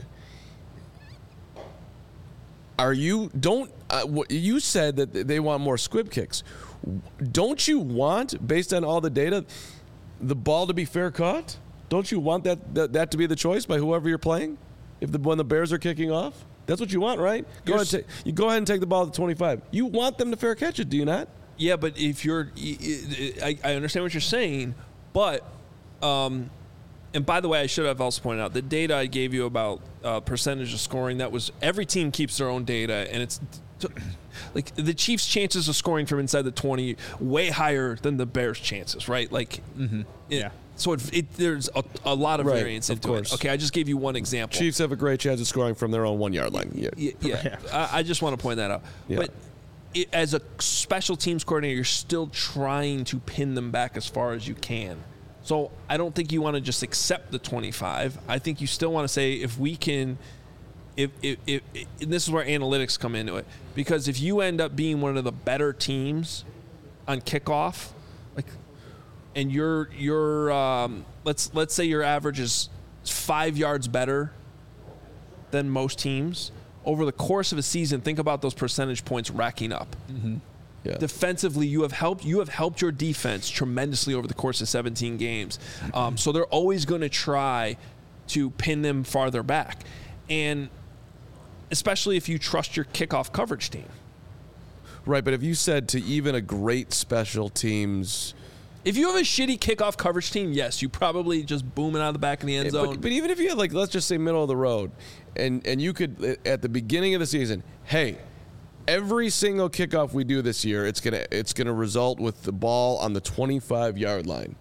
Are you don't uh, you said that they want more squib kicks? Don't you want, based on all the data, the ball to be fair caught? Don't you want that that, that to be the choice by whoever you're playing? If the when the Bears are kicking off, that's what you want, right? Go ahead, take, you go ahead and take the ball at the twenty-five. You want them to fair catch it, do you not? Yeah, but if you're, I, I understand what you're saying, but, um, and by the way, I should have also pointed out the data I gave you about uh, percentage of scoring. That was every team keeps their own data, and it's t- like the Chiefs' chances of scoring from inside the twenty way higher than the Bears' chances, right? Like, mm-hmm. it, yeah. So it, it, there's a, a lot of right, variance of into course. it. Okay, I just gave you one example. Chiefs have a great chance of scoring from their own one yard line. Yeah, yeah. yeah. I, I just want to point that out. Yeah. But it, as a special teams coordinator, you're still trying to pin them back as far as you can. So I don't think you want to just accept the twenty-five. I think you still want to say if we can, if, if, if, if and this is where analytics come into it, because if you end up being one of the better teams on kickoff, like, and you're you're um, let's let's say your average is five yards better than most teams over the course of a season, think about those percentage points racking up. Mm-hmm. Yeah. Defensively, you have helped you have helped your defense tremendously over the course of seventeen games. Um, so they're always going to try to pin them farther back, and especially if you trust your kickoff coverage team. Right, but if you said to even a great special teams, if you have a shitty kickoff coverage team, yes, you probably just boom it out of the back of the end zone. But, but even if you had, like, let's just say middle of the road, and and you could at the beginning of the season, hey. Every single kickoff we do this year, it's gonna it's gonna result with the ball on the twenty-five yard line.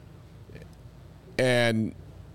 And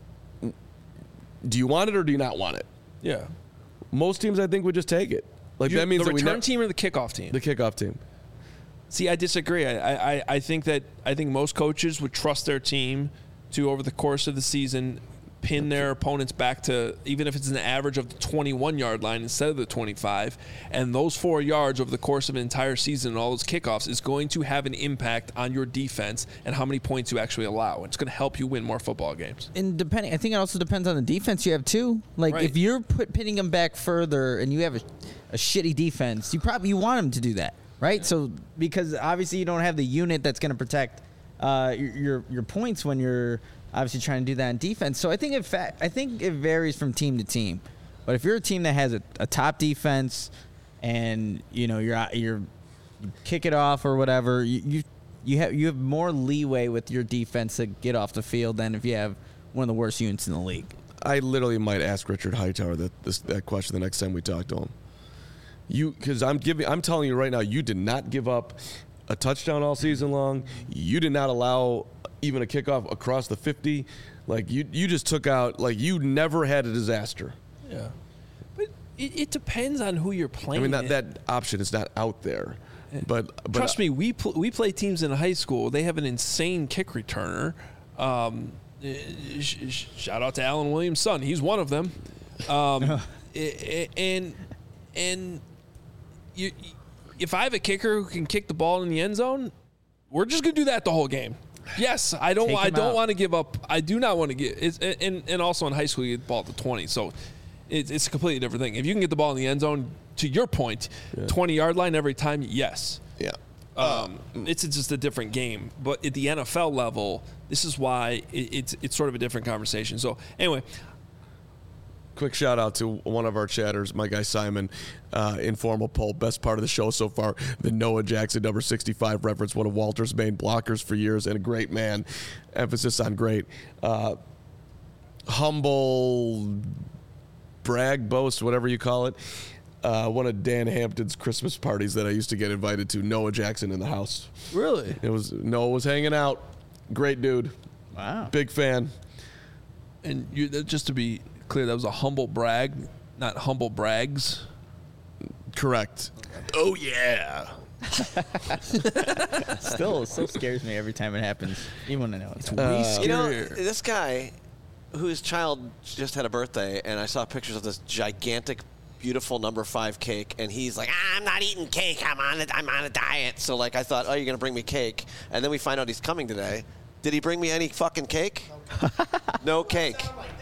do you want it or do you not want it? Yeah. Most teams, I think, would just take it. Like you, that means the that return we ne- team or the kickoff team. The kickoff team. See, I disagree. I, I I think that I think most coaches would trust their team to over the course of the season pin their opponents back to, even if it's an average of the twenty-one yard line instead of the twenty-five, and those four yards over the course of an entire season and all those kickoffs is going to have an impact on your defense and how many points you actually allow. It's going to help you win more football games. And depending, I think it also depends on the defense you have too. Like right. if you're put, pinning them back further and you have a, a shitty defense, you probably you want them to do that, right? Yeah. So because obviously you don't have the unit that's going to protect uh, your, your your points when you're obviously trying to do that in defense. So I think it fa- I think it varies from team to team. But if you're a team that has a, a top defense and you know you're you're you kick it off or whatever, you, you you have you have more leeway with your defense to get off the field than if you have one of the worst units in the league. I literally might ask Richard Hightower that this, that question the next time we talk to him. You because I'm giving I'm telling you right now, you did not give up a touchdown all season long. You did not allow even a kickoff across the fifty. Like you you just took out, like you never had a disaster. Yeah. But it, it depends on who you're playing. I mean, that, that option is not out there. But, but trust me, we pl- we play teams in high school. They have an insane kick returner. Um, sh- sh- shout out to Alan Williams' son. He's one of them. Um, and and you, if I have a kicker who can kick the ball in the end zone, we're just gonna do that the whole game. Yes, I don't. I don't want to give up. I do not want to get. It's, and and also in high school, you get the ball at the twenty. So it, it's a completely different thing. If you can get the ball in the end zone, to your point, twenty-yard line every time, yes. Yeah. Um, it's just a different game. But at the N F L level, this is why it, it's it's sort of a different conversation. So anyway. Quick shout out to one of our chatters, my guy Simon. Uh, informal poll, best part of the show so far. The Noah Jackson number sixty-five reference, one of Walter's main blockers for years, and a great man. Emphasis on great. Uh, humble, brag, boast, whatever you call it. Uh, one of Dan Hampton's Christmas parties that I used to get invited to. Noah Jackson in the house. Really? It was Noah was hanging out. Great dude. Wow. Big fan. And you, just to be clear, that was a humble brag, not humble brags. Correct. Oh yeah. Still, still scares me every time it happens, even when I know it's. Uh, You know, this guy whose child just had a birthday, and I saw pictures of this gigantic, beautiful number five cake, and he's like, ah, I'm not eating cake. I'm on a, I'm on a diet. So, like, I thought, oh, you're going to bring me cake. And then we find out he's coming today. Did he bring me any fucking cake? No cake.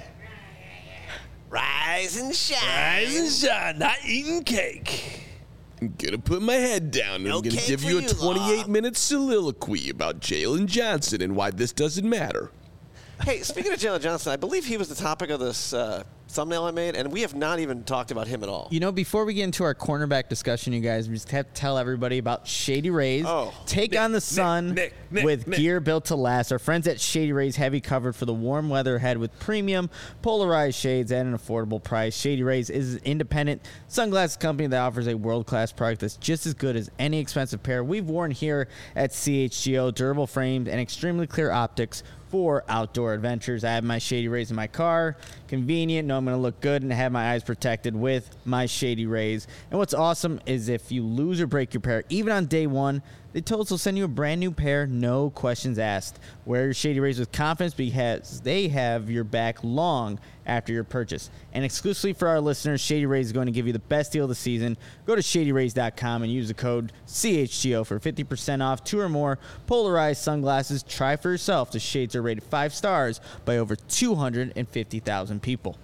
Rise and shine. Rise and shine, not eating cake. I'm gonna put my head down and No I'm gonna cake give for you a you, twenty-eight Law. minute soliloquy about Jalen Johnson and why this doesn't matter. Hey, speaking of Jalen Johnson, I believe he was the topic of this uh, thumbnail I made, and we have not even talked about him at all. You know, before we get into our cornerback discussion, you guys, we just have to tell everybody about Shady Rays. Oh. Take Nick, on the Nick, sun Nick, Nick, with Nick. gear built to last. Our friends at Shady Rays have you covered for the warm weather ahead with premium polarized shades at an affordable price. Shady Rays is an independent sunglasses company that offers a world-class product that's just as good as any expensive pair we've worn here at C H G O. Durable frames and extremely clear optics for outdoor adventures. I have my Shady Rays in my car. Convenient. Know I'm going to look good and have my eyes protected with my Shady Rays. And what's awesome is if you lose or break your pair, even on day one, they told us they'll send you a brand new pair, no questions asked. Wear your Shady Rays with confidence because they have your back long after your purchase. And exclusively for our listeners, Shady Rays is going to give you the best deal of the season. Go to shady rays dot com and use the code C H G O for fifty percent off two or more polarized sunglasses. Try for yourself. The shades are rated five stars by over two hundred fifty thousand people.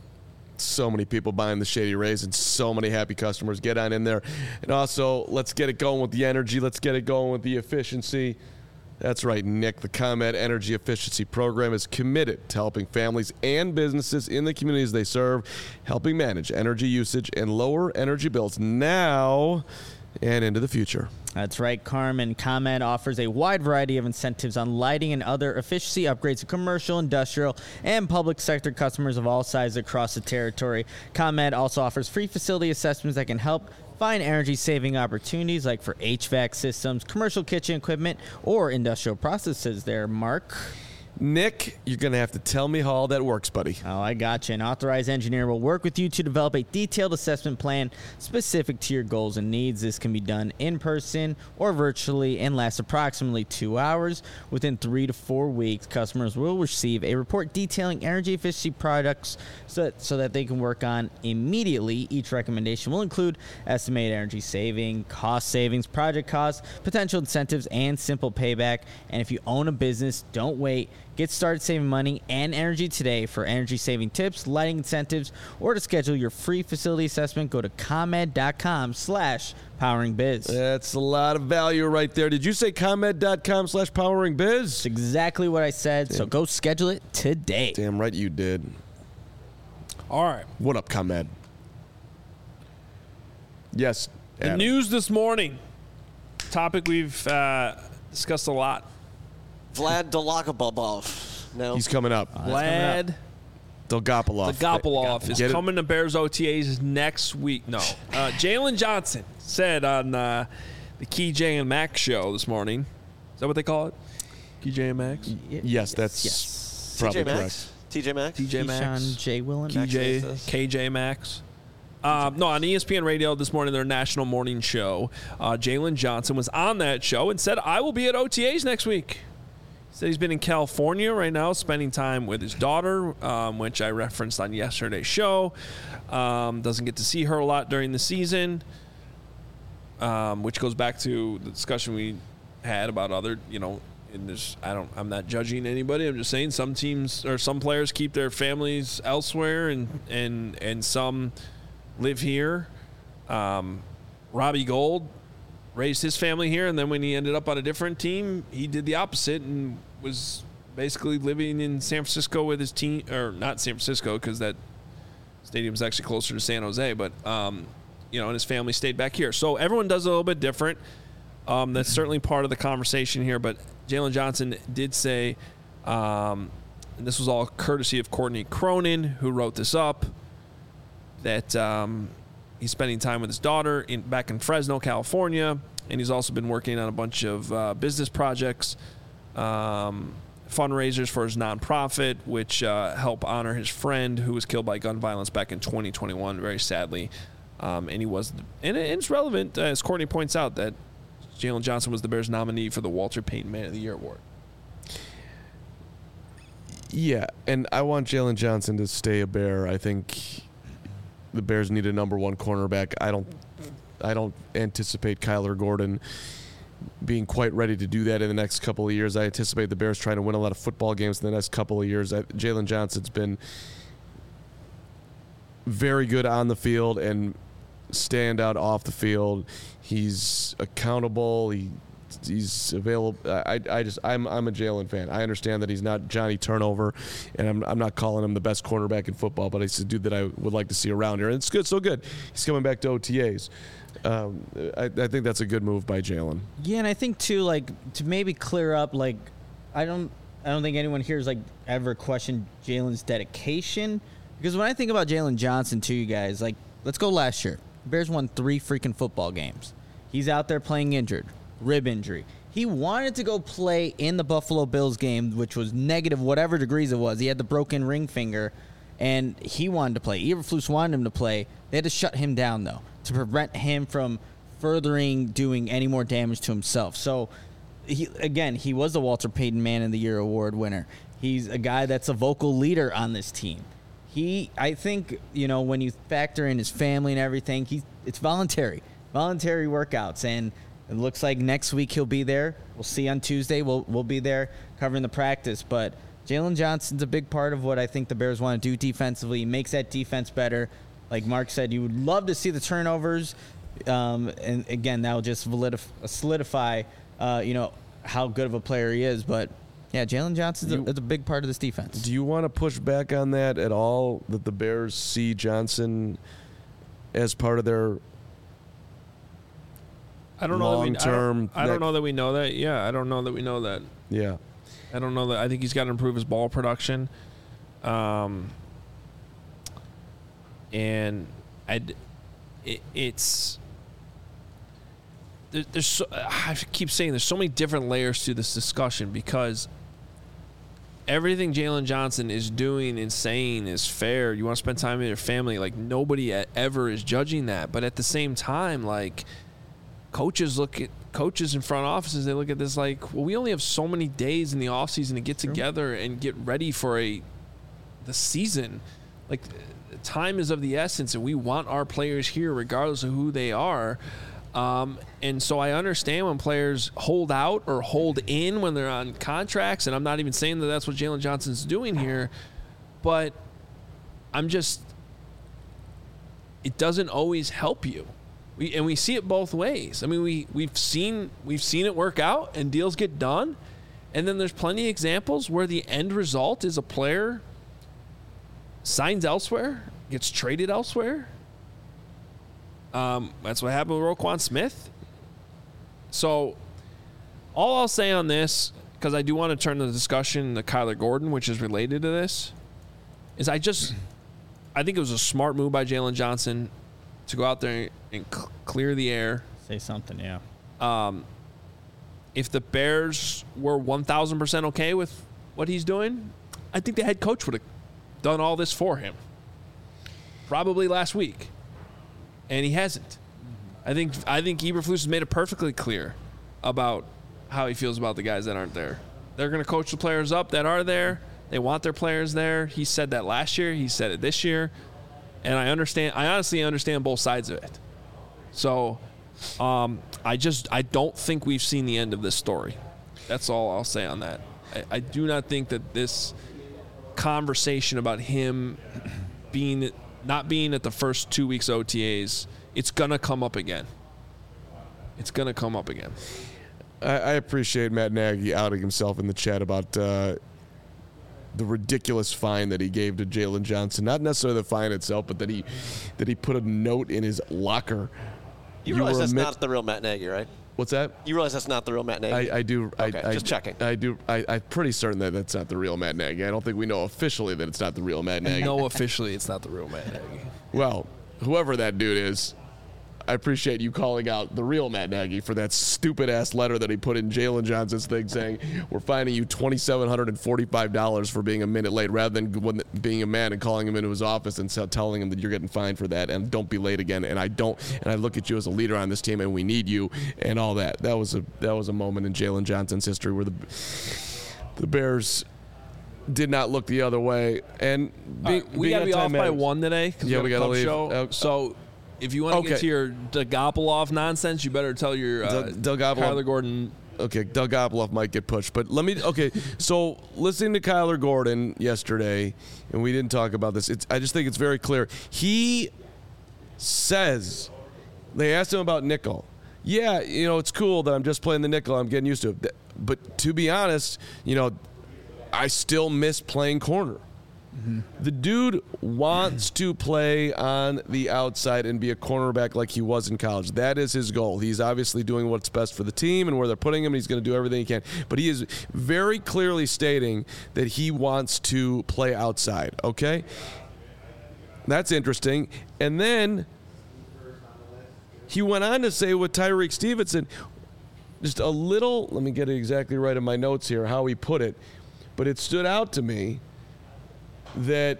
So many people buying the Shady Rays and so many happy customers. Get on in there. And also, let's get it going with the energy. Let's get it going with the efficiency. That's right, Nick. The ComEd Energy Efficiency Program is committed to helping families and businesses in the communities they serve, helping manage energy usage and lower energy bills now and into the future. That's right, Carmen. ComEd offers a wide variety of incentives on lighting and other efficiency upgrades to commercial, industrial, and public sector customers of all sizes across the territory. ComEd also offers free facility assessments that can help find energy-saving opportunities like for H V A C systems, commercial kitchen equipment, or industrial processes there, Mark. Nick, you're going to have to tell me how all that works, buddy. Oh, I got you. An authorized engineer will work with you to develop a detailed assessment plan specific to your goals and needs. This can be done in person or virtually and lasts approximately two hours. Within three to four weeks, customers will receive a report detailing energy efficiency products so that, so that they can work on immediately. Each recommendation will include estimated energy saving, cost savings, project costs, potential incentives, and simple payback. And if you own a business, don't wait. Get started saving money and energy today. For energy saving tips, lighting incentives, or to schedule your free facility assessment, go to ComEd.com slash powering biz. That's a lot of value right there. Did you say ComEd.com slash powering biz? That's exactly what I said, Damn. So go schedule it today. Damn right you did. All right. What up, ComEd? Yes. The Adam. news this morning, topic we've uh, discussed a lot. Vlad Dolagobabov. No. He's coming up. Vlad Dolgopolov. Dolgopolov is Get it? coming to Bears O T As next week. No. Uh, Jalen Johnson said on uh, the Key J and Max show this morning. Is that what they call it? Key J and Max? Yes, that's Yes. probably T J Maxx? correct. T J Maxx? T J Maxx? Keyshawn J. Willen. K J, Maxx. K J Maxx. Um, no, on E S P N Radio this morning, their national morning show, uh, Jalen Johnson was on that show and said, I will be at O T As next week. He said he's been in California right now, spending time with his daughter, um, which I referenced on yesterday's show. Um, doesn't get to see her a lot during the season, um, which goes back to the discussion we had about other, you know, and there's, I don't, I'm not judging anybody. I'm just saying some teams or some players keep their families elsewhere, and and and some live here. Um, Robbie Gould raised his family here, and then when he ended up on a different team, he did the opposite and was basically living in San Francisco with his team, or not San Francisco because that stadium's actually closer to San Jose, but um, you know, and his family stayed back here. So everyone does a little bit different. Um, that's certainly part of the conversation here, but Jalen Johnson did say, um, and this was all courtesy of Courtney Cronin, who wrote this up, that um, he's spending time with his daughter in back in Fresno, California, and he's also been working on a bunch of uh, business projects, um, fundraisers for his nonprofit, which uh, help honor his friend who was killed by gun violence back in twenty twenty-one, very sadly. Um, and he was, and it's relevant, uh, as Courtney points out, that Jalen Johnson was the Bears nominee for the Walter Payton Man of the Year award. Yeah, and I want Jalen Johnson to stay a Bear. I think the Bears need a number one cornerback. I don't, I don't anticipate Kyler Gordon being quite ready to do that in the next couple of years. I anticipate the Bears trying to win a lot of football games in the next couple of years. Jalen Johnson's been very good on the field and stand out off the field. He's accountable. He he's available. I I just I'm I'm a Jalen fan. I understand that he's not Johnny Turnover, and I'm I'm not calling him the best cornerback in football, but he's a dude that I would like to see around here. And it's good, so good. He's coming back to O T As. Um, I, I think that's a good move by Jalen. Yeah, and I think too, like, to maybe clear up, like, I don't I don't think anyone here has like ever questioned Jalen's dedication, because when I think about Jalen Johnson, to you guys, like, let's go last year. Bears won three freaking football games. He's out there playing injured, rib injury. He wanted to go play in the Buffalo Bills game, which was negative whatever degrees it was. He had the broken ring finger, and he wanted to play. Eberflus wanted him to play. They had to shut him down, though, to prevent him from furthering doing any more damage to himself. So, he, again, he was the Walter Payton Man of the Year award winner. He's a guy that's a vocal leader on this team. He, I think, you know, when you factor in his family and everything, he it's voluntary, voluntary workouts, and it looks like next week he'll be there. We'll see on Tuesday. We'll we'll be there covering the practice. But Jalen Johnson's a big part of what I think the Bears want to do defensively. He makes that defense better. Like Mark said, you would love to see the turnovers, um, and again, that will just solidify, uh, you know, how good of a player he is. But yeah, Jalen Johnson's a, is a big part of this defense. Do you want to push back on that at all, that the Bears see Johnson as part of their I don't know long-term? I, don't, I don't know that we know that. Yeah, I don't know that we know that. Yeah. I don't know that. I think he's got to improve his ball production. Um, and I'd, it, it's there, there's so, I keep saying there's so many different layers to this discussion, because everything Jalen Johnson is doing and saying is fair. You want to spend time with your family. Like, nobody ever is judging that. But at the same time, like, coaches look at coaches in front offices, they look at this like, well, we only have so many days in the offseason to get together and get ready for a the season. Like, time is of the essence, and we want our players here regardless of who they are. Um, and so I understand when players hold out or hold in when they're on contracts, and I'm not even saying that that's what Jalen Johnson's doing here, but I'm just, it doesn't always help you. We, and we see it both ways. I mean, we, we've seen we've seen it work out and deals get done, and then there's plenty of examples where the end result is a player signs elsewhere, gets traded elsewhere. Um, that's what happened with Roquan Smith. So all I'll say on this, because I do want to turn the discussion to Kyler Gordon, which is related to this, is I just I think it was a smart move by Jalen Johnson to go out there and cl- clear the air. Say something, yeah. Um, if the Bears were one thousand percent okay with what he's doing, I think the head coach would have done all this for him. Probably last week. And he hasn't. I think I think Eberflus has made it perfectly clear about how he feels about the guys that aren't there. They're going to coach the players up that are there. They want their players there. He said that last year. He said it this year. And I understand. I honestly understand both sides of it. So um, I just I don't think we've seen the end of this story. That's all I'll say on that. I, I do not think that this conversation about him being not being at the first two weeks O T As, it's gonna come up again. It's gonna come up again. I, I appreciate Matt Nagy outing himself in the chat about uh, the ridiculous fine that he gave to Jalen Johnson. Not necessarily the fine itself, but that he that he put a note in his locker. You, you realize that's not the real Matt Nagy, right? What's that? You realize that's not the real Matt Nagy? I, I do. Okay, I, just I, checking. I do. I, I'm pretty certain that that's not the real Matt Nagy. I don't think we know officially that it's not the real Matt Nagy. No, officially, it's not the real Matt Nagy. Well, whoever that dude is, I appreciate you calling out the real Matt Nagy for that stupid-ass letter that he put in Jalen Johnson's thing saying, we're fining you two thousand seven hundred forty-five dollars for being a minute late, rather than when, being a man and calling him into his office and so telling him that you're getting fined for that and don't be late again. And I don't, and I look at you as a leader on this team and we need you and all that. That was a that was a moment in Jalen Johnson's history where the the Bears did not look the other way. And being, right, we being got to be off matters. by one today. Yeah, we, we got to leave. Show. Uh, so if you want to okay. get to your Dagopolov nonsense, you better tell your uh, Doug Kyler Gordon. Okay, Doug Gopolov might get pushed, but let me. Okay, so listening to Kyler Gordon yesterday, and we didn't talk about this. It's, I just think it's very clear. He says they asked him about nickel. Yeah, you know it's cool that I'm just playing the nickel. I'm getting used to it. But to be honest, you know, I still miss playing corner. Mm-hmm. The dude wants to play on the outside and be a cornerback like he was in college. That is his goal. He's obviously doing what's best for the team and where they're putting him, and he's going to do everything he can. But he is very clearly stating that he wants to play outside, okay? That's interesting. And then he went on to say with Tyreek Stevenson, just a little, let me get it exactly right in my notes here, how he put it, but it stood out to me that,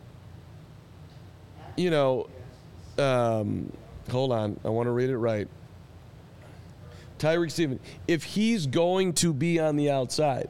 you know, um, hold on, I want to read it right. Tyreek Stevenson, if he's going to be on the outside.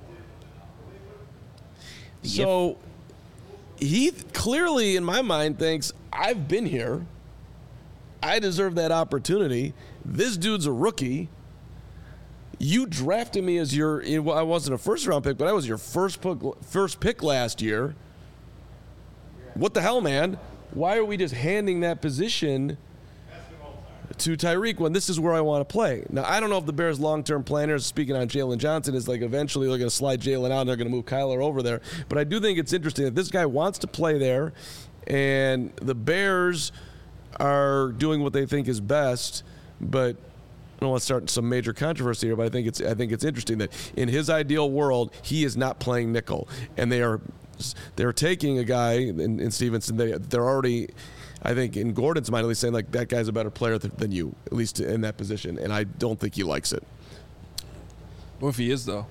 So he clearly, in my mind, thinks, I've been here. I deserve that opportunity. This dude's a rookie. You drafted me as your, I wasn't a first-round pick, but I was your first pick, first pick last year. What the hell, man? Why are we just handing that position to Tyreek when this is where I want to play? Now, I don't know if the Bears' long-term planners, speaking on Jalen Johnson, is like eventually they're going to slide Jalen out and they're going to move Kyler over there. But I do think it's interesting that this guy wants to play there, and the Bears are doing what they think is best. But I don't want to start some major controversy here, but I think it's I think it's interesting that in his ideal world, he is not playing nickel, and they are. They're taking a guy in, in Stevenson. They, they're already, I think, in Gordon's mind, at least saying like that guy's a better player th- than you, at least in that position. And I don't think he likes it. What if he is though?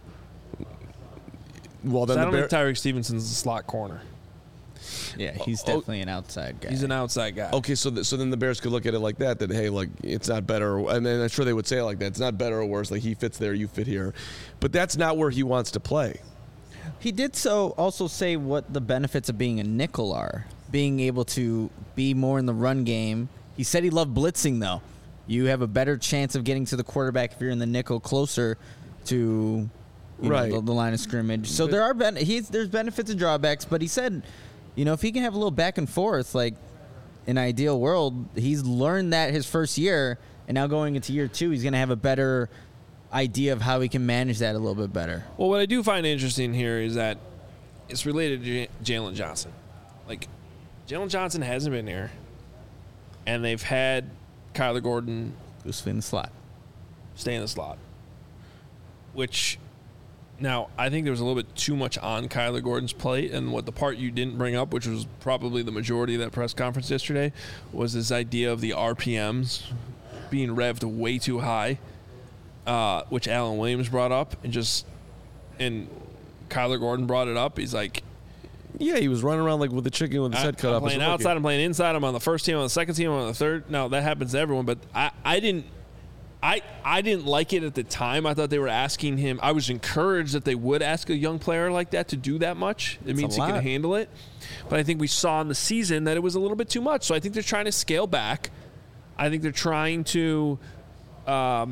Well, then I the don't Bear- think Tyreek Stevenson's a slot corner. Yeah, he's definitely an outside guy. He's an outside guy. Okay, so th- so then the Bears could look at it like that. That hey, like it's not better, or, and then I'm sure they would say it like that. It's not better or worse. Like he fits there, you fit here, but that's not where he wants to play. He did so also say what the benefits of being a nickel are. Being able to be more in the run game. He said he loved blitzing, though. You have a better chance of getting to the quarterback if you're in the nickel closer to you right. know, the, the line of scrimmage. So but, there are ben- he's, there's benefits and drawbacks, but he said, you know, if he can have a little back and forth, like in an ideal world, he's learned that his first year, and now going into year two, he's going to have a better idea of how he can manage that a little bit better. Well, what I do find interesting here is that it's related to J- Jalen Johnson. Like, Jalen Johnson hasn't been here, and they've had Kyler Gordon loosely in the slot, stay in the slot. Which, now I think there was a little bit too much on Kyler Gordon's plate, and what the part you didn't bring up, which was probably the majority of that press conference yesterday, was this idea of the R P Ms being revved way too high. Uh, which Alan Williams brought up, and just and Kyler Gordon brought it up. He's like, yeah, he was running around like with the chicken with his I, head cut I'm off. playing outside, I'm playing inside. I'm on the first team, I'm on the second team, I'm on the third. Now that happens to everyone, but I, I didn't, I, I didn't like it at the time. I thought they were asking him. I was encouraged that they would ask a young player like that to do that much. It It's means he can handle it. But I think we saw in the season that it was a little bit too much. So I think they're trying to scale back. I think they're trying to. Um,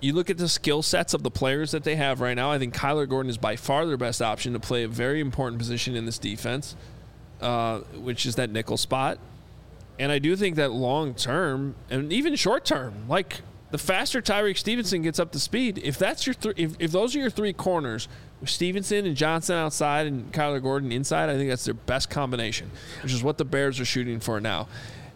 you look at the skill sets of the players that they have right now. I think Kyler Gordon is by far their best option to play a very important position in this defense, uh, which is that nickel spot. And I do think that long term and even short term, like the faster Tyreek Stevenson gets up to speed, if that's your th- if, if those are your three corners, with Stevenson and Johnson outside and Kyler Gordon inside, I think that's their best combination, which is what the Bears are shooting for now.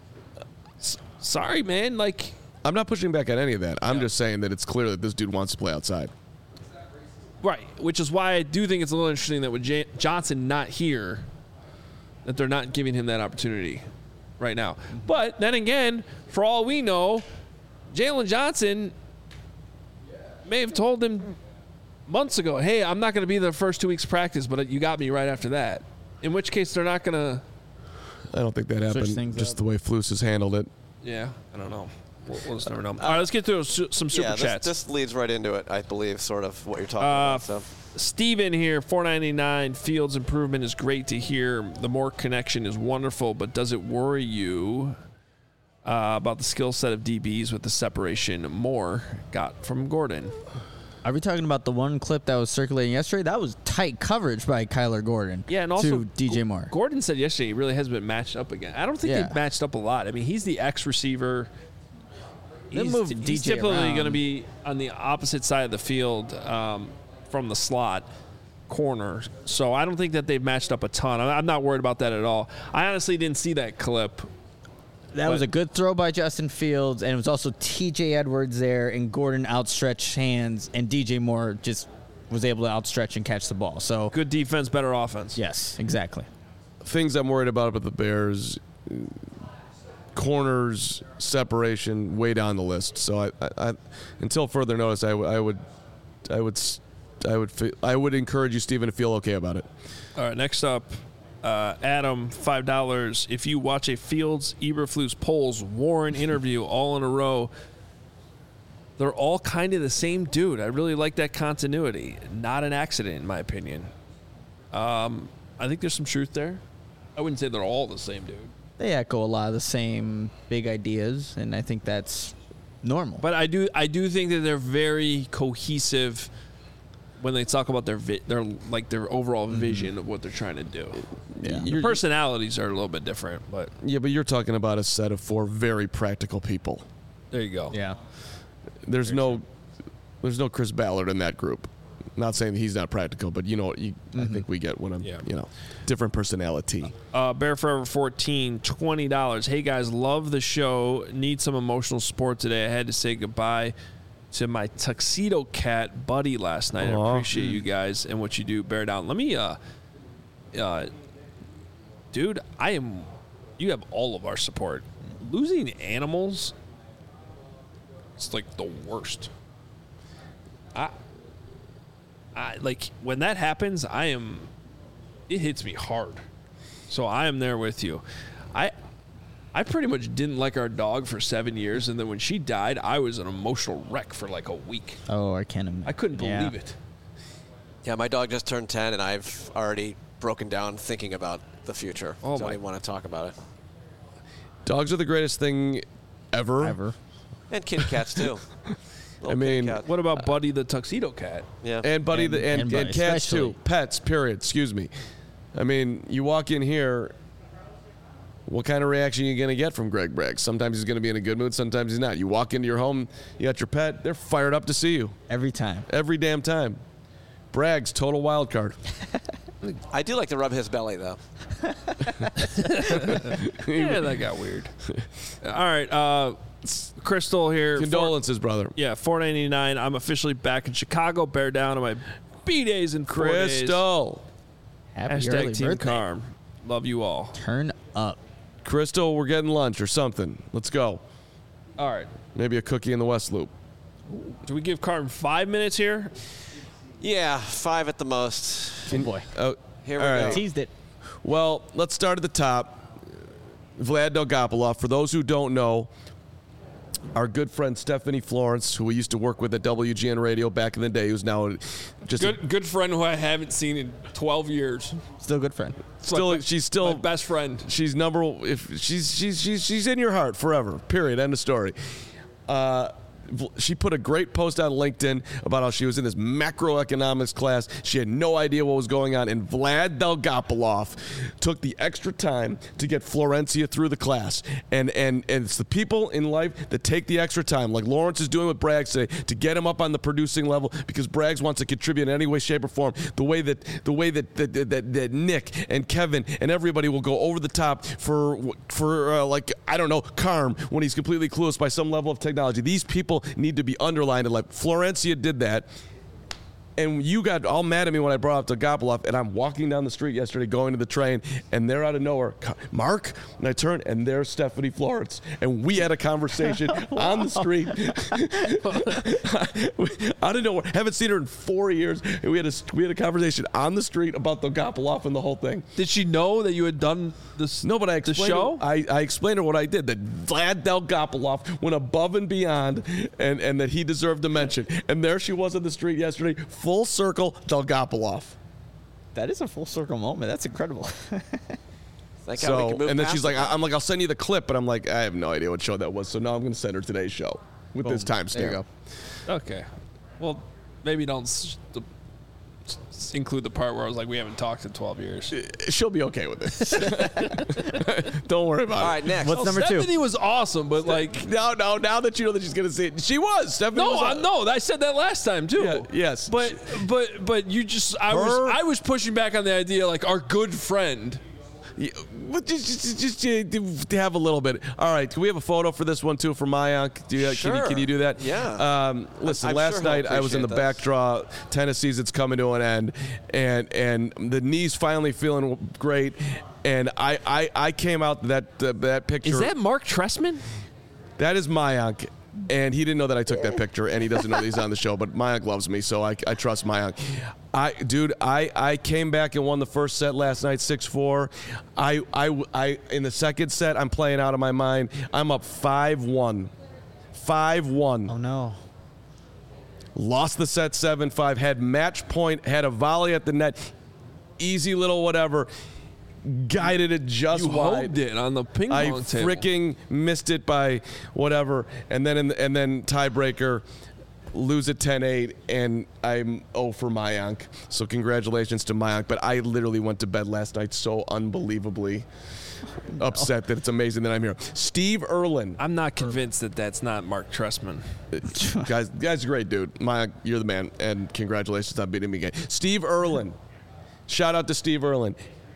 S- sorry, man. Like, I'm not pushing back on any of that. I'm Yeah. just saying that it's clear that this dude wants to play outside. right, which is why I do think it's a little interesting that with J- Johnson not here, that they're not giving him that opportunity right now. But then again, for all we know, Jalen Johnson may have told him months ago, hey, I'm not going to be the first two weeks of practice, but you got me right after that. In which case, they're not going to. I don't think that happened. things Just up. the way Flus has handled it. Yeah, I don't know. We'll, we'll just never know. All right, let's get to su- some super yeah, this, chats. this leads right into it, I believe, sort of what you're talking Uh, about. So. Steven here, four ninety-nine. Fields improvement is great to hear. The more connection is wonderful, but does it worry you uh, about the skill set of D Bs with the separation Moore got from Gordon? Are we talking about the one clip that was circulating yesterday? That was tight coverage by Kyler Gordon. Yeah, and also to D J Moore. Gordon said yesterday he really hasn't been matched up again. I don't think Yeah. they've matched up a lot. I mean, he's the X receiver. They He's, moved he's D J typically around. going to be on the opposite side of the field um, from the slot corner. So I don't think that they've matched up a ton. I'm I'm not worried about that at all. I honestly didn't see that clip. That was But- a good throw by Justin Fields, and it was also T J Edwards there, and Gordon outstretched hands, and D J Moore just was able to outstretch and catch the ball. So, Good defense, better offense. yes, exactly. Things I'm worried about about the Bears, corners, separation, way down the list. So I, I, I until further notice, I, w- I would, I would, s- I would, fe- I would encourage you, Stephen, to feel okay about it. All right, next up, uh, Adam, five dollars. If you watch a Fields, Eberflus, Poles, Warren interview all in a row, they're all kind of the same dude. I really like that continuity. Not an accident, in my opinion. Um, I think there's some truth there. I wouldn't say they're all the same dude. They echo a lot of the same big ideas, and I think that's normal. But I do I do think that they're very cohesive when they talk about their vi- their like their overall vision of what they're trying to do. Yeah. Their personalities are a little bit different, but Yeah, but you're talking about a set of four very practical people. there you go. yeah. There's no, there's no Chris Ballard in that group. Not saying that he's not practical, but you know, you, I think we get when I'm, Yeah. you know, different personality. Uh, Bear Forever fourteen, twenty dollars. Hey guys, love the show. Need some emotional support today. I had to say goodbye to my tuxedo cat buddy last night. I Aw. appreciate you guys and what you do. Bear down. Let me, uh, uh, dude, I am. You have all of our support. Losing animals, it's like the worst. I, I like when that happens. I am. It hits me hard. So I am there with you. I I pretty much didn't like our dog for seven years, and then when she died, I was an emotional wreck for like a week. Oh, I can't imagine. I couldn't Yeah. believe it. Yeah, my dog just turned ten, and I've already broken down thinking about the future. Oh, Don't my- even want to talk about it. Dogs are the greatest thing ever. Ever. And kitty cats, too. Little I mean, kitty cat. What about Buddy the tuxedo cat? Yeah. And buddy, And- the, and, and and, buddy, cats especially. too. Pets, period. Excuse me. I mean, you walk in here. What kind of reaction are you going to get from Greg Bragg? Sometimes he's going to be in a good mood. Sometimes he's not. You walk into your home, you got your pet. They're fired up to see you Every time. every damn time. Bragg's total wild card. I do like to rub his belly, though. Yeah, that got weird. All right, uh, Crystal here. Condolences, brother. Yeah, four ninety nine. I'm officially back in Chicago. Bear down on my B days in four days. Crystal. Happy early Hashtag Team birthday. Carm. Love you all. Turn up. Crystal, we're getting lunch or something. Let's go. All right. Maybe a cookie in the West Loop. Do we give Carm five minutes here? Yeah, five at the most. Oh boy. Oh, Here we all go. right. Teased it. Well, let's start at the top. Vlad Dolgopolov. For those who don't know, our good friend Stephanie Florence, who we used to work with at W G N Radio back in the day, who's now just a- Good, good friend who I haven't seen in twelve years. Still a good friend. still, my- she's still My best friend. She's number. If she's she's she's she's in your heart forever. Period. End of story. Uh, She put a great post on LinkedIn about how she was in this macroeconomics class. She had no idea what was going on, and Vlad Dolgopolov took the extra time to get Florencia through the class. And and and it's the people in life that take the extra time, like Lawrence is doing with Braggs today, to get him up on the producing level because Braggs wants to contribute in any way, shape, or form. The way that the way that that, that, that Nick and Kevin and everybody will go over the top for for uh, like I don't know Carm when he's completely clueless by some level of technology. These people need to be underlined. Like Florencia did that. And you got all mad at me when I brought up Dolgopolov, and I'm walking down the street yesterday going to the train, and they're out of nowhere, Mark, and I turn, and there's Stephanie Florence. And we had a conversation on the street. Out of nowhere. Haven't seen her in four years. And we had a, we had a conversation on the street about Dolgopolov and the whole thing. Did she know that you had done this? No, but I the explained show. I, I explained to her what I did. That Vlad Dolgopolov went above and beyond, and, and that he deserved a mention. And there she was on the street yesterday. Full circle, Dolgopolov. That is a full circle moment. That's incredible. Thank God we So, can move and then past she's like, it. I'm like, I'll send you the clip, but I'm like, I have no idea what show that was. So now I'm going to send her today's show with Boom. this There you timestamp. go. Okay. Well, maybe don't s- the, s- include the part where I was like, we haven't talked in twelve years. She'll be okay with this. Don't worry about All it. right, next. What's Oh, number two? Stephanie was awesome, but like, No, no. Now that you know that she's going to say it, she was. Stephanie no, was I, no, I said that last time too. Yeah, yes. But but but you just, I Her- was I was pushing back on the idea like our good friend. Yeah, well, just, just, just, just to have a little bit. All right, can we have a photo for this one too for Mayank? Do you, can, you, can you do that? Yeah. Um, listen, I'm last sure he'll night I was in the appreciate back this. draw. Tennis season's coming to an end, and and the knee's finally feeling great. And I, I, I came out that uh, that picture. Is that Mark Tressman? That is Mayank. And he didn't know that I took that picture, and he doesn't know that he's on the show. But Mayank loves me, so I, I trust Mayank. I, dude, I, I came back and won the first set last night, six four. I, I, I, in the second set, I'm playing out of my mind. I'm up five one. five one. Oh, no. Lost the set seven five. Had match point, had a volley at the net. Easy little whatever. Guided it just You wide. holded it on the ping I pong table. freaking missed it by whatever, and then in the, and then tiebreaker, lose it ten eight, and I'm oh for Mayank. So congratulations to Mayank. But I literally went to bed last night so unbelievably upset that it's amazing that I'm here. Steve Erlin, I'm not convinced that that's not Mark Tressman. guys, guys, are great dude. Mayank, you're the man, and congratulations on beating me again. Steve Erlin, shout out to Steve Erlin.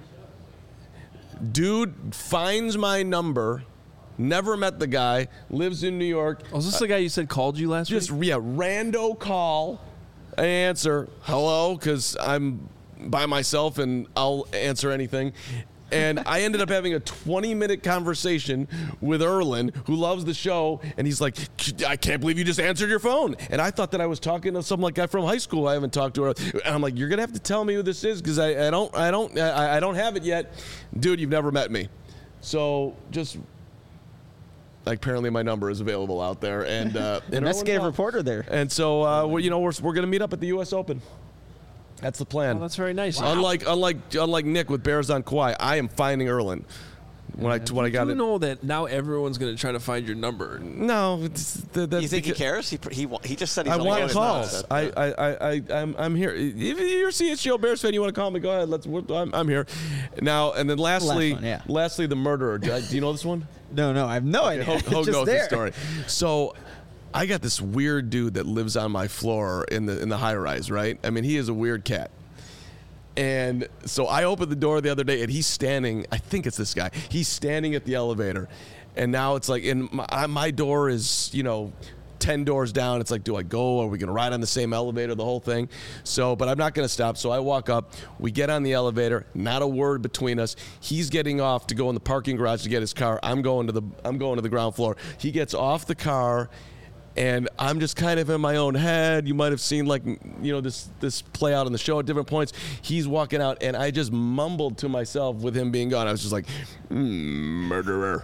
Dude finds my number, never met the guy, lives in New York. Oh, is this the guy you said called you last Just, week? yeah, rando call. I answer, hello, because I'm by myself and I'll answer anything. And I ended up having a twenty-minute conversation with Erlin, who loves the show, and he's like, I can't believe you just answered your phone. And I thought that I was talking to some like guy from high school I haven't talked to. And I'm like, you're gonna have to tell me who this is because I, I don't I don't I, I don't have it yet. Dude, you've never met me. So just like apparently my number is available out there. And uh, and Investigative Erlin called. reporter there. And so uh, we're, you know we're we're gonna meet up at the U S Open. That's the plan. Oh, that's very nice. Unlike unlike unlike Nick with Bears on Kauai, I am finding Erlin. When I when I got you it. know that now everyone's going to try to find your number. No, it's, the, that's You think he because- cares? He he wa- he just said he's I only want getting calls. that. I, I, I, I, I'm, I'm here. If you're a C H G O Bears fan, you want to call me? Go ahead. Let's. we're- I'm, I'm here. Now and then, lastly, one, yeah. lastly, the murderer. Do, I- do you know this one? No, no, I have no idea. Hogue, Hogue Just knows there. the story. So, I got this weird dude that lives on my floor in the in the high rise. Right? I mean, he is a weird cat. And so I opened the door the other day, and he's standing. I think it's this guy. He's standing at the elevator, and now it's like, and my, my door is, you know, ten doors down. It's like, do I go? Are we gonna ride on the same elevator? The whole thing. So, but I'm not gonna stop. So I walk up. We get on the elevator. Not a word between us. He's getting off to go in the parking garage to get his car. I'm going to the. I'm going to the ground floor. He gets off the car. And I'm just kind of in my own head. You might have seen, like, you know, this this play out on the show at different points. He's walking out, and I just mumbled to myself with him being gone. I was just like, mm, murderer.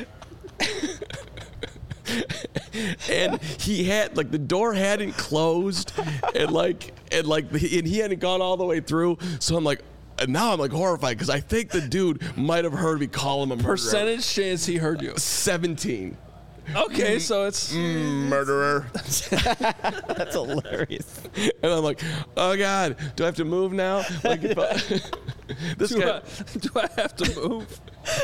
And he had, like, the door hadn't closed, and like, and like, and he hadn't gone all the way through. So I'm like, and now I'm like horrified because I think the dude might have hered me call him a murderer. Percentage chance he heard you. seventeen. Okay, so it's Mm, murderer. That's hilarious. And I'm like, oh God, do I have to move now? Like, if I, this do guy, I, do I have to move?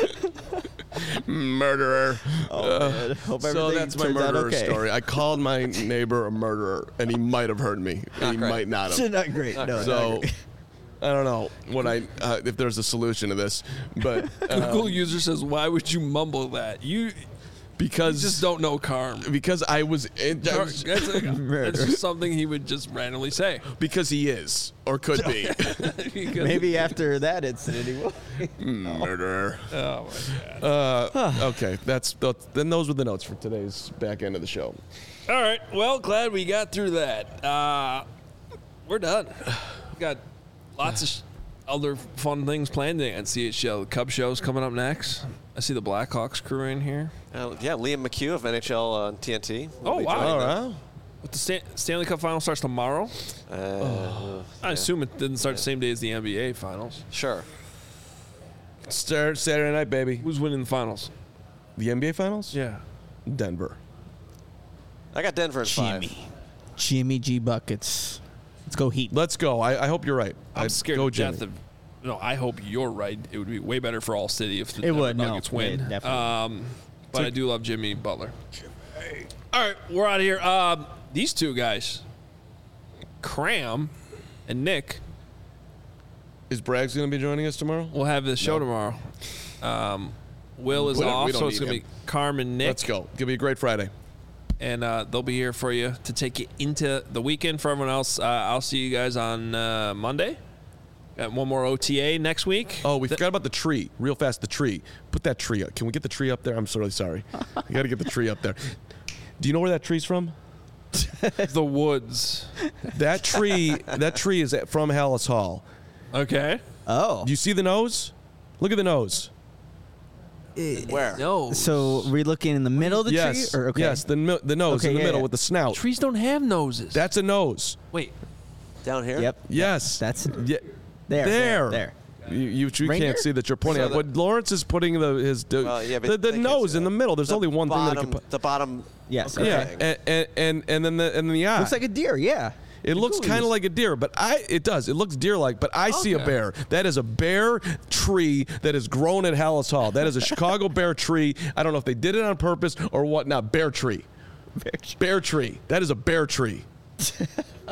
murderer. Oh, man. Hope So everything that's my turns out murderer okay. story. I called my neighbor a murderer, and he might have heard me. Not he great. might not have. Not great. No, not So great. I don't know what I uh, if there's a solution to this, but uh, Google user says, "Why would you mumble that? You, you because just don't know Carm. because I was, in, I Car- was- That's, like- Murder. that's just something he would just randomly say. because he is or could be Because- Maybe after that incident, he will. murderer. Oh my god. Uh, okay, that's then. Those were the notes for today's back end of the show. All right. Well, glad we got through that. Uh, we're done. We got lots of sh- other fun things planned at C H L. The Cub show's coming up next. I see the Blackhawks crew in here. Uh, yeah, Liam McHugh of N H L on T N T. will Oh, be wow. joining All them. right. But the Stan- Stanley Cup final starts tomorrow. Uh, I assume it didn't start the same day as the N B A finals. Sure. Start Saturday night, baby. Who's winning the finals? The N B A finals. Yeah. Denver. I got Denver in five. Jimmy. Jimmy G buckets. Let's go Heat. Let's go. I, I hope you're right. I'm I'd scared go to death Jimmy. of. No, I hope you're right. It would be way better for all city if the It Denver would, no. Nuggets win. Yeah, definitely. Um, but I do love Jimmy Butler. All right, we're out of here. Um, these two guys, Cram and Nick, Is Braggs going to be joining us tomorrow? will have the show No. tomorrow. Um, Will is We don't- we off, don't so it's need going to him. be Carm and Nick. Let's go. Give me a great Friday. And uh, they'll be here for you to take you into the weekend. For everyone else, uh, I'll see you guys on uh, Monday. Got one more O T A next week. Oh, we forgot about the tree. Real fast, the tree. Put that tree up. Can we get the tree up there? I'm so really sorry. You got to get the tree up there. Do you know where that tree's from? The woods. That tree. That tree is at, from Hallis Hall. Okay. Oh. Do you see the nose? Look at the nose. Where? No. So we're looking in the middle of the yes. tree? Or, okay. Yes. The mi- the nose Okay, in the yeah, middle yeah. with the snout. Trees don't have noses. That's a nose. Wait. Down here? Yep. Yes. That's Yeah. there. There. There. there. You, you, you Reindeer? can't see that you're pointing So at. the- But Lawrence is putting the his the, Well, yeah, but the, the they can't nose see in that. the middle. There's The only one bottom, thing that can put. The bottom. Yes. Okay. Yeah, and, and and and then the and then the eye. Looks like a deer. Yeah. It looks Cool. kind of like a deer, but I it does. It looks deer-like, but I see a Okay. bear. That is a bear tree that is grown at Hallis Hall. That is a Chicago bear tree. I don't know if they did it on purpose or whatnot. Bear tree. Bear tree. Bear tree. That is a bear tree.